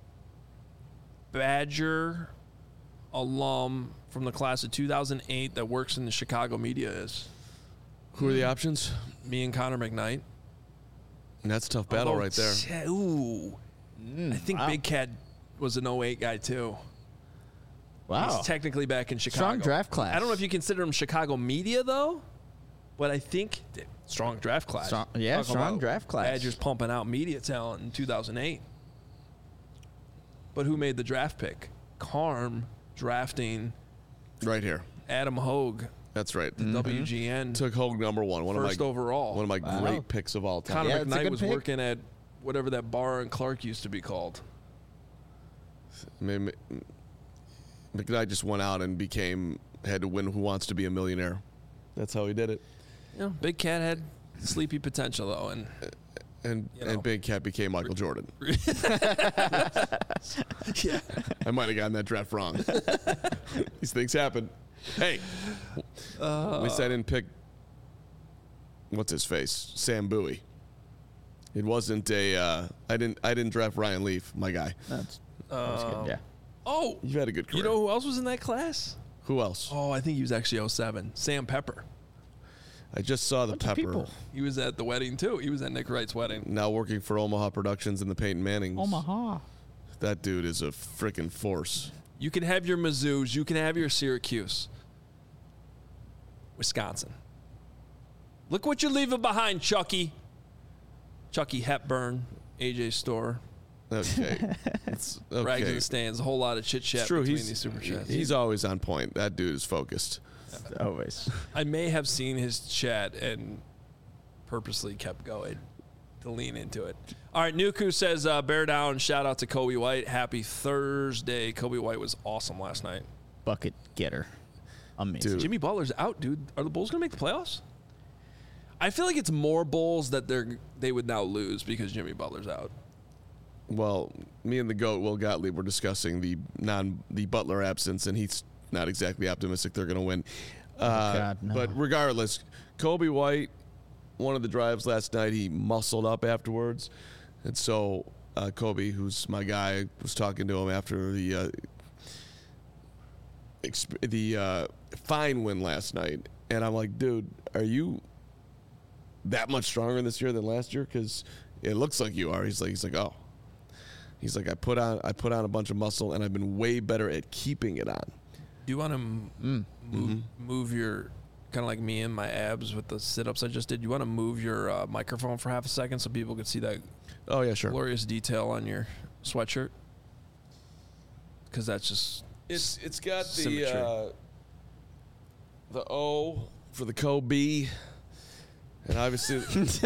Badger alum from the class of 2008 that works in the Chicago media is.
Who are the options?
Me and Connor McKnight.
And that's a tough battle right there.
Ooh. I think
wow.
Big Cat was an 08 guy too.
Wow.
He's technically back in Chicago.
Strong draft class.
I don't know if you consider him Chicago media though, but I think strong draft class.
Strong- yeah,
Talking
strong
about
draft class.
Badgers pumping out media talent in 2008. But who made the draft pick? Carm drafting
Right here.
Adam Hogue,
That's right.
WGN,
Took Hogue number one.
first overall.
One of my
Wow.
great picks of all time.
Connor
Yeah, it's a
McKnight
good
was
pick.
working at whatever that bar in Clark used to be called.
I mean, McKnight just went out and had to win Who Wants to Be a Millionaire. That's how he did it.
You know, Big Cat had sleepy potential though, and
And
You know.
and Big Cat became Michael Jordan.
yeah.
I might have gotten that draft wrong. These things happen. Hey, at least I didn't pick what's his face, Sam Bowie. It wasn't a. I didn't draft Ryan Leaf, my guy.
That's good. Yeah.
Oh,
You've had a good career.
you know who else was in that class?
Who else?
Oh, I think he was actually 07. Sam Pepper.
I just saw the Pepper.
people.
He was at the wedding, too. He was at Nick Wright's wedding.
Now working for Omaha Productions and the Peyton Mannings.
Omaha.
That dude is a freaking force.
You can have your Mizzous. You can have your Syracuse. Wisconsin. Look what you're leaving behind, Chucky. Chucky Hepburn, AJ Store.
Okay. It's okay.
Rags in the stands. A whole lot of chit-chat
It's true.
between these super chats.
He's always on point. That dude is focused.
Always.
I may have seen his chat and purposely kept going to lean into it. All right, Nuku says, bear down. Shout out to Kobe White. Happy Thursday. Kobe White was awesome last night.
Bucket getter. Amazing.
Dude.
Jimmy Butler's out, dude. Are the Bulls going to make the playoffs? I feel like it's more Bulls that they would now lose because Jimmy Butler's out.
Well, me and the GOAT, Will Gottlieb, were discussing the Butler absence, and he's not exactly optimistic they're going to win.
God, no.
But regardless, Kobe White, one of the drives last night, he muscled up afterwards. And so Kobe, who's my guy, was talking to him after the fine win last night. And I'm like, dude, are you that much stronger this year than last year? Because it looks like you are. He's like, oh. He's like, I put on a bunch of muscle, and I've been way better at keeping it on.
Do you want to move your, kind of like me and my abs with the sit-ups I just did, you want to move your microphone for half a second so people can see that
Oh, yeah, sure.
glorious detail on your sweatshirt? Because that's just...
It's got
symmetry.
the O for the Kobe, and obviously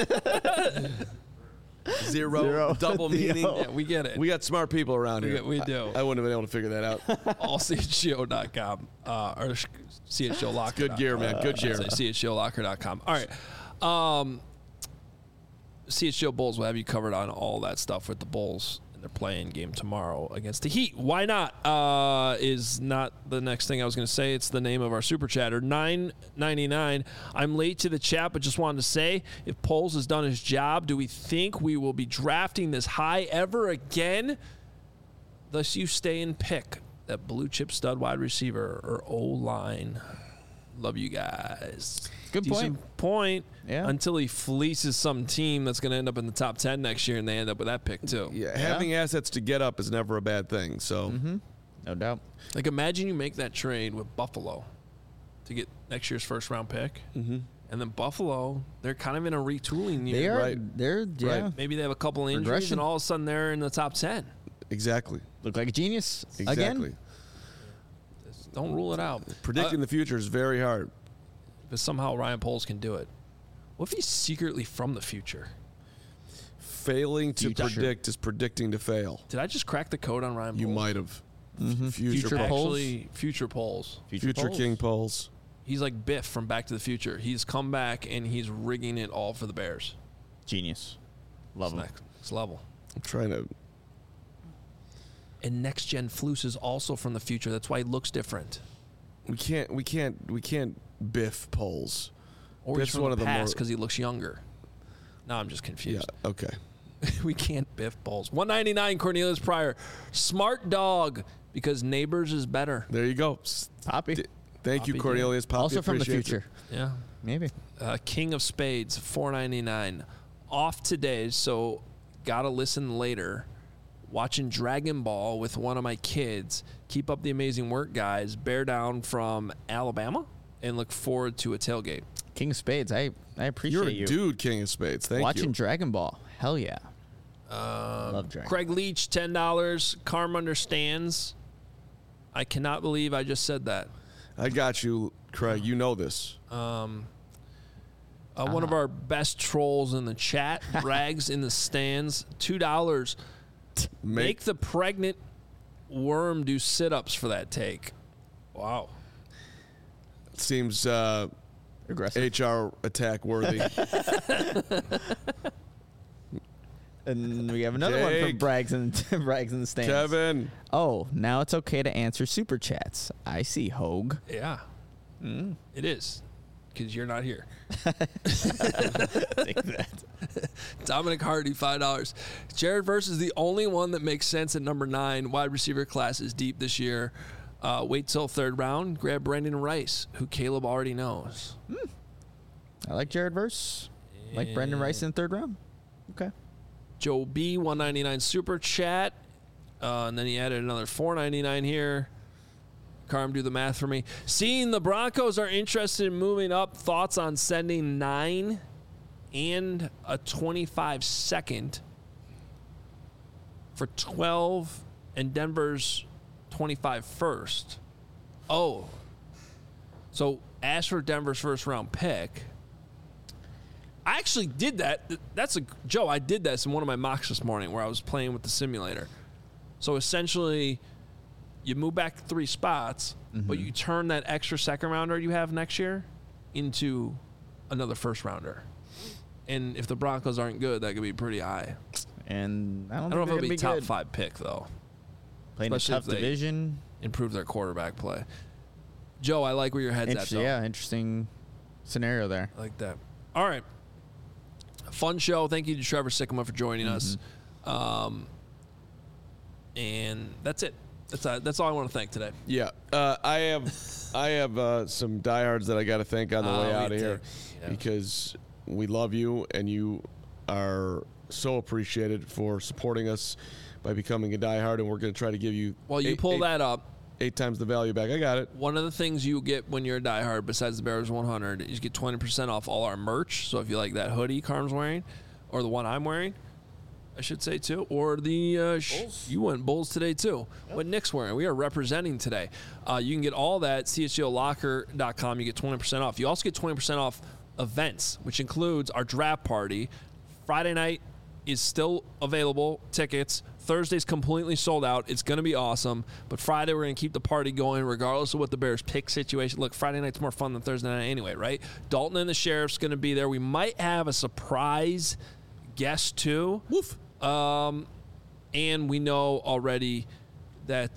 zero, double meaning.
Yeah, we get it.
We got smart people around here.
We do.
I wouldn't have been able to figure that out.
allchgo.com or chgolocker.
Good gear, man. Good gear.
chgolocker.com. All right. CHGO Bulls will have you covered on all that stuff with the Bulls. They're playing game tomorrow against the Heat. Why not? Is not the next thing I was going to say. It's the name of our super chatter. $9.99. I'm late to the chat, but just wanted to say, if Poles has done his job, do we think we will be drafting this high ever again? Thus, you stay and pick that blue chip stud wide receiver or O-line. Love you guys.
Good
point.
Yeah.
Until he fleeces some team that's going to end up in the top 10 next year, and they end up with that pick too.
Yeah, having assets to get up is never a bad thing. So,
No doubt.
Like, imagine you make that trade with Buffalo to get next year's first round pick, and then Buffalo, they're kind of in a retooling year.
They are.
Right.
They're yeah.
Maybe they have a couple injuries,
Progression.
and all of a sudden they're in the top 10.
exactly.
Look like a genius
Exactly.
again.
Don't rule it out.
Predicting the future is very hard.
But somehow Ryan Poles can do it. What if he's secretly from the future?
Failing to
Future.
predict is predicting to fail.
Did I just crack the code on Ryan Poles?
You might have.
Future
Poles.
Poles.
Actually, future Poles.
Future
Poles.
King Poles.
He's like Biff from Back to the Future. He's come back, and he's rigging it all for the Bears.
Genius. Love him.
Next level.
I'm trying to.
And Next Gen Flus is also from the future. That's why he looks different.
We can't biff Poles.
Or
Biff's
he's from
one
the
of the more-
past because he looks younger. Now I'm just
Yeah.
confused.
Okay.
We can't biff Poles. $199 Cornelius Pryor. Smart dog because Neighbors is better.
There you go.
Poppy.
Thank you,
Poppy
Cornelius. Poppy
Also from the
appreciates
future.
it.
Yeah.
Maybe.
King of Spades, $4.99. Off today, so gotta listen later. Watching Dragon Ball with one of my kids. Keep up the amazing work, guys. Bear down from Alabama, and look forward to a tailgate.
King of Spades. I appreciate
You're a
you.
dude, King of Spades. Thank
Watching
you.
Dragon Ball. Hell yeah. Love Dragon.
Craig Leach, $10. Carm understands. I cannot believe I just said that.
I got you, Craig. You know this.
One of our best trolls in the chat, Rags in the stands, $2. Make the pregnant worm do sit-ups for that take. Wow.
Seems
Aggressive.
HR attack worthy.
And we have another one from
Jake.
Braggs in the stands.
Kevin.
Oh, now it's okay to answer super chats. I see, Hogue.
Yeah. It is. because you're not here.
Take that.
Dominic Hardy, $5. Jared Verse is the only one that makes sense at number 9. Wide receiver class is deep this year. Wait till third round. Grab Brandon Rice, who Caleb already knows.
I like Jared Verse. Like Brandon Rice in the third round. Okay.
Joe B, $1.99 super chat. And then he added another $4.99 here. Carm, do the math for me. Seeing the Broncos are interested in moving up. Thoughts on sending 9 and a 25 second for 12 and Denver's 25 first. Oh. So ask for Denver's first round pick. I actually did that. Joe, I did this in one of my mocks this morning where I was playing with the simulator. So essentially, you move back 3 spots, but you turn that extra second rounder you have next year into another first rounder. And if the Broncos aren't good, that could be pretty high.
And I don't
know if
think
it'll be top
good.
5 pick, though.
Playing
Especially
a tough
if they
division.
Improve their quarterback play. Joe, I like where your head's at, though.
Yeah, interesting scenario there.
I like that. All right. Fun show. Thank you to Trevor Sikkema for joining us. And that's it. That's all I want to thank today.
Yeah, I have some diehards that I got to thank on the way out of here because we love you and you are so appreciated for supporting us by becoming a diehard, and we're going to try to give you.
Well, you pull that up.
8 times the value back. I got it.
One of the things you get when you're a diehard, besides the Bears 100, is you get 20% off all our merch. So if you like that hoodie Carm's wearing, or the one I'm wearing, I should say too, or the you went Bulls today too. Yep. What Nick's wearing, we are representing today. You can get all that at chgolocker.com. You get 20% off. You also get 20% off events, which includes our draft party. Friday night is still available. Tickets. Thursday's completely sold out. It's going to be awesome. But Friday, we're going to keep the party going regardless of what the Bears pick situation. Look, Friday night's more fun than Thursday night anyway, right? Dalton and the Sheriff's going to be there. We might have a surprise guest too.
Woof.
And we know already that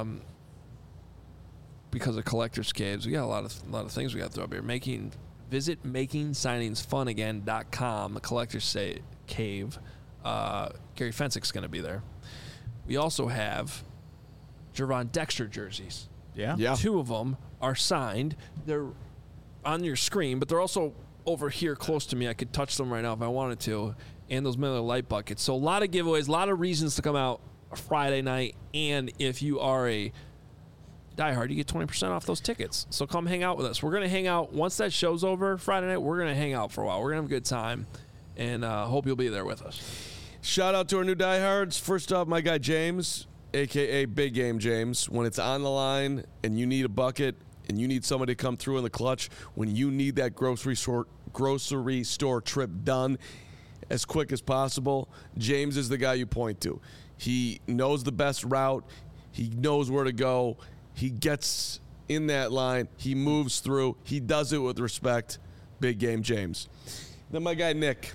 because of Collector's Caves, we got a lot of things we got to throw up here. Visit makingsigningsfunagain.com, the Collector's Cave. Gary Fensick's going to be there. We also have Jervon Dexter jerseys.
Yeah.
2 of them are signed. They're on your screen, but they're also over here close to me. I could touch them right now if I wanted to. And those Miller Lite buckets. So a lot of giveaways, a lot of reasons to come out Friday night. And if you are a diehard, you get 20% off those tickets. So come hang out with us. We're going to hang out. Once that show's over Friday night, we're going to hang out for a while. We're going to have a good time. And hope you'll be there with us.
Shout out to our new diehards. First off, my guy James, a.k.a. Big Game James. When it's on the line and you need a bucket and you need somebody to come through in the clutch, when you need that grocery store trip done as quick as possible, James is the guy you point to. He knows the best route. He knows where to go. He gets in that line. He moves through. He does it with respect. Big Game James. Then my guy Nick.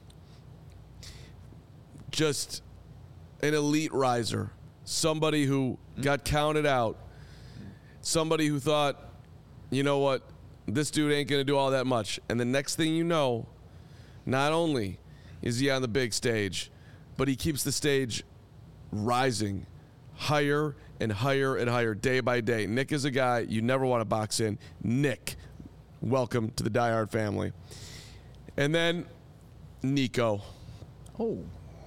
Just an elite riser. Somebody who got counted out. Somebody who thought, you know what, this dude ain't going to do all that much. And the next thing you know, not only is he on the big stage, but he keeps the stage rising higher and higher and higher day by day. Nick is a guy you never want to box in. Nick, welcome to the Die Hard family. And then Nico.
Oh.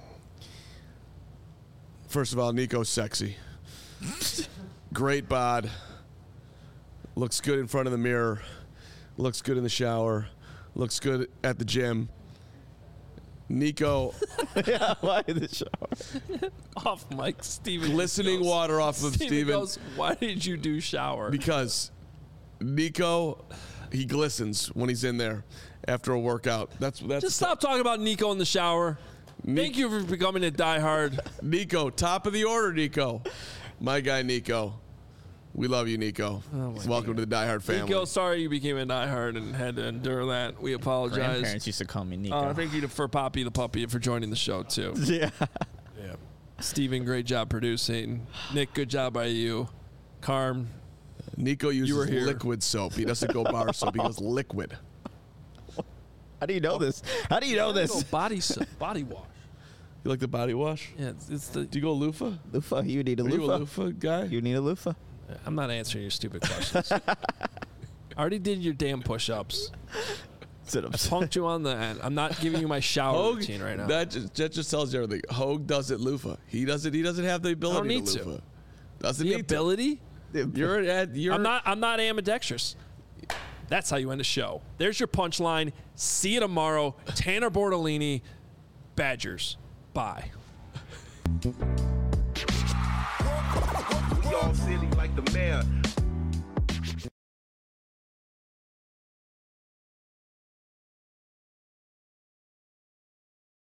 First of all, Nico's sexy. Great bod. Looks good in front of the mirror. Looks good in the shower. Looks good at the gym. Nico.
Yeah, why the shower?
Off mic, Steven.
Glistening water off of Steven.
Goes, why did you do shower?
Because Nico, he glistens when he's in there after a workout. That's
Just stop talking about Nico in the shower. Thank you for becoming a diehard.
Nico, top of the order, Nico. My guy, Nico. We love you, Nico. Welcome to the Die Hard family.
Nico, sorry you became a diehard and had to endure that. We apologize.
Grandparents used to call me Nico.
Thank you for Poppy the Puppy for joining the show, too.
Yeah.
Steven, great job producing. Nick, good job by you. Carm,
Nico uses
were here.
liquid soap. He doesn't go bar soap. He goes liquid.
How do you know this? How do you know this?
Body wash.
You like the body wash?
Yeah, it's the.
Do you go loofah?
Loofah. You need a
Are you a
loofah.
loofah guy?
You need a loofah.
I'm not answering your stupid questions. I already did your damn push-ups.
Sit up.
I punked you on the end. I'm not giving you my shower
Hogue,
routine right now.
that just tells you everything. Hogue does it loofah. He doesn't have the ability
need
to
to.
loofah. Doesn't
the
need
ability?
to. You're
I'm not ambidextrous. That's how you end a show. There's your punchline. See you tomorrow. Tanner Bortolini, Badgers. Bye.
We all silly like the mayor.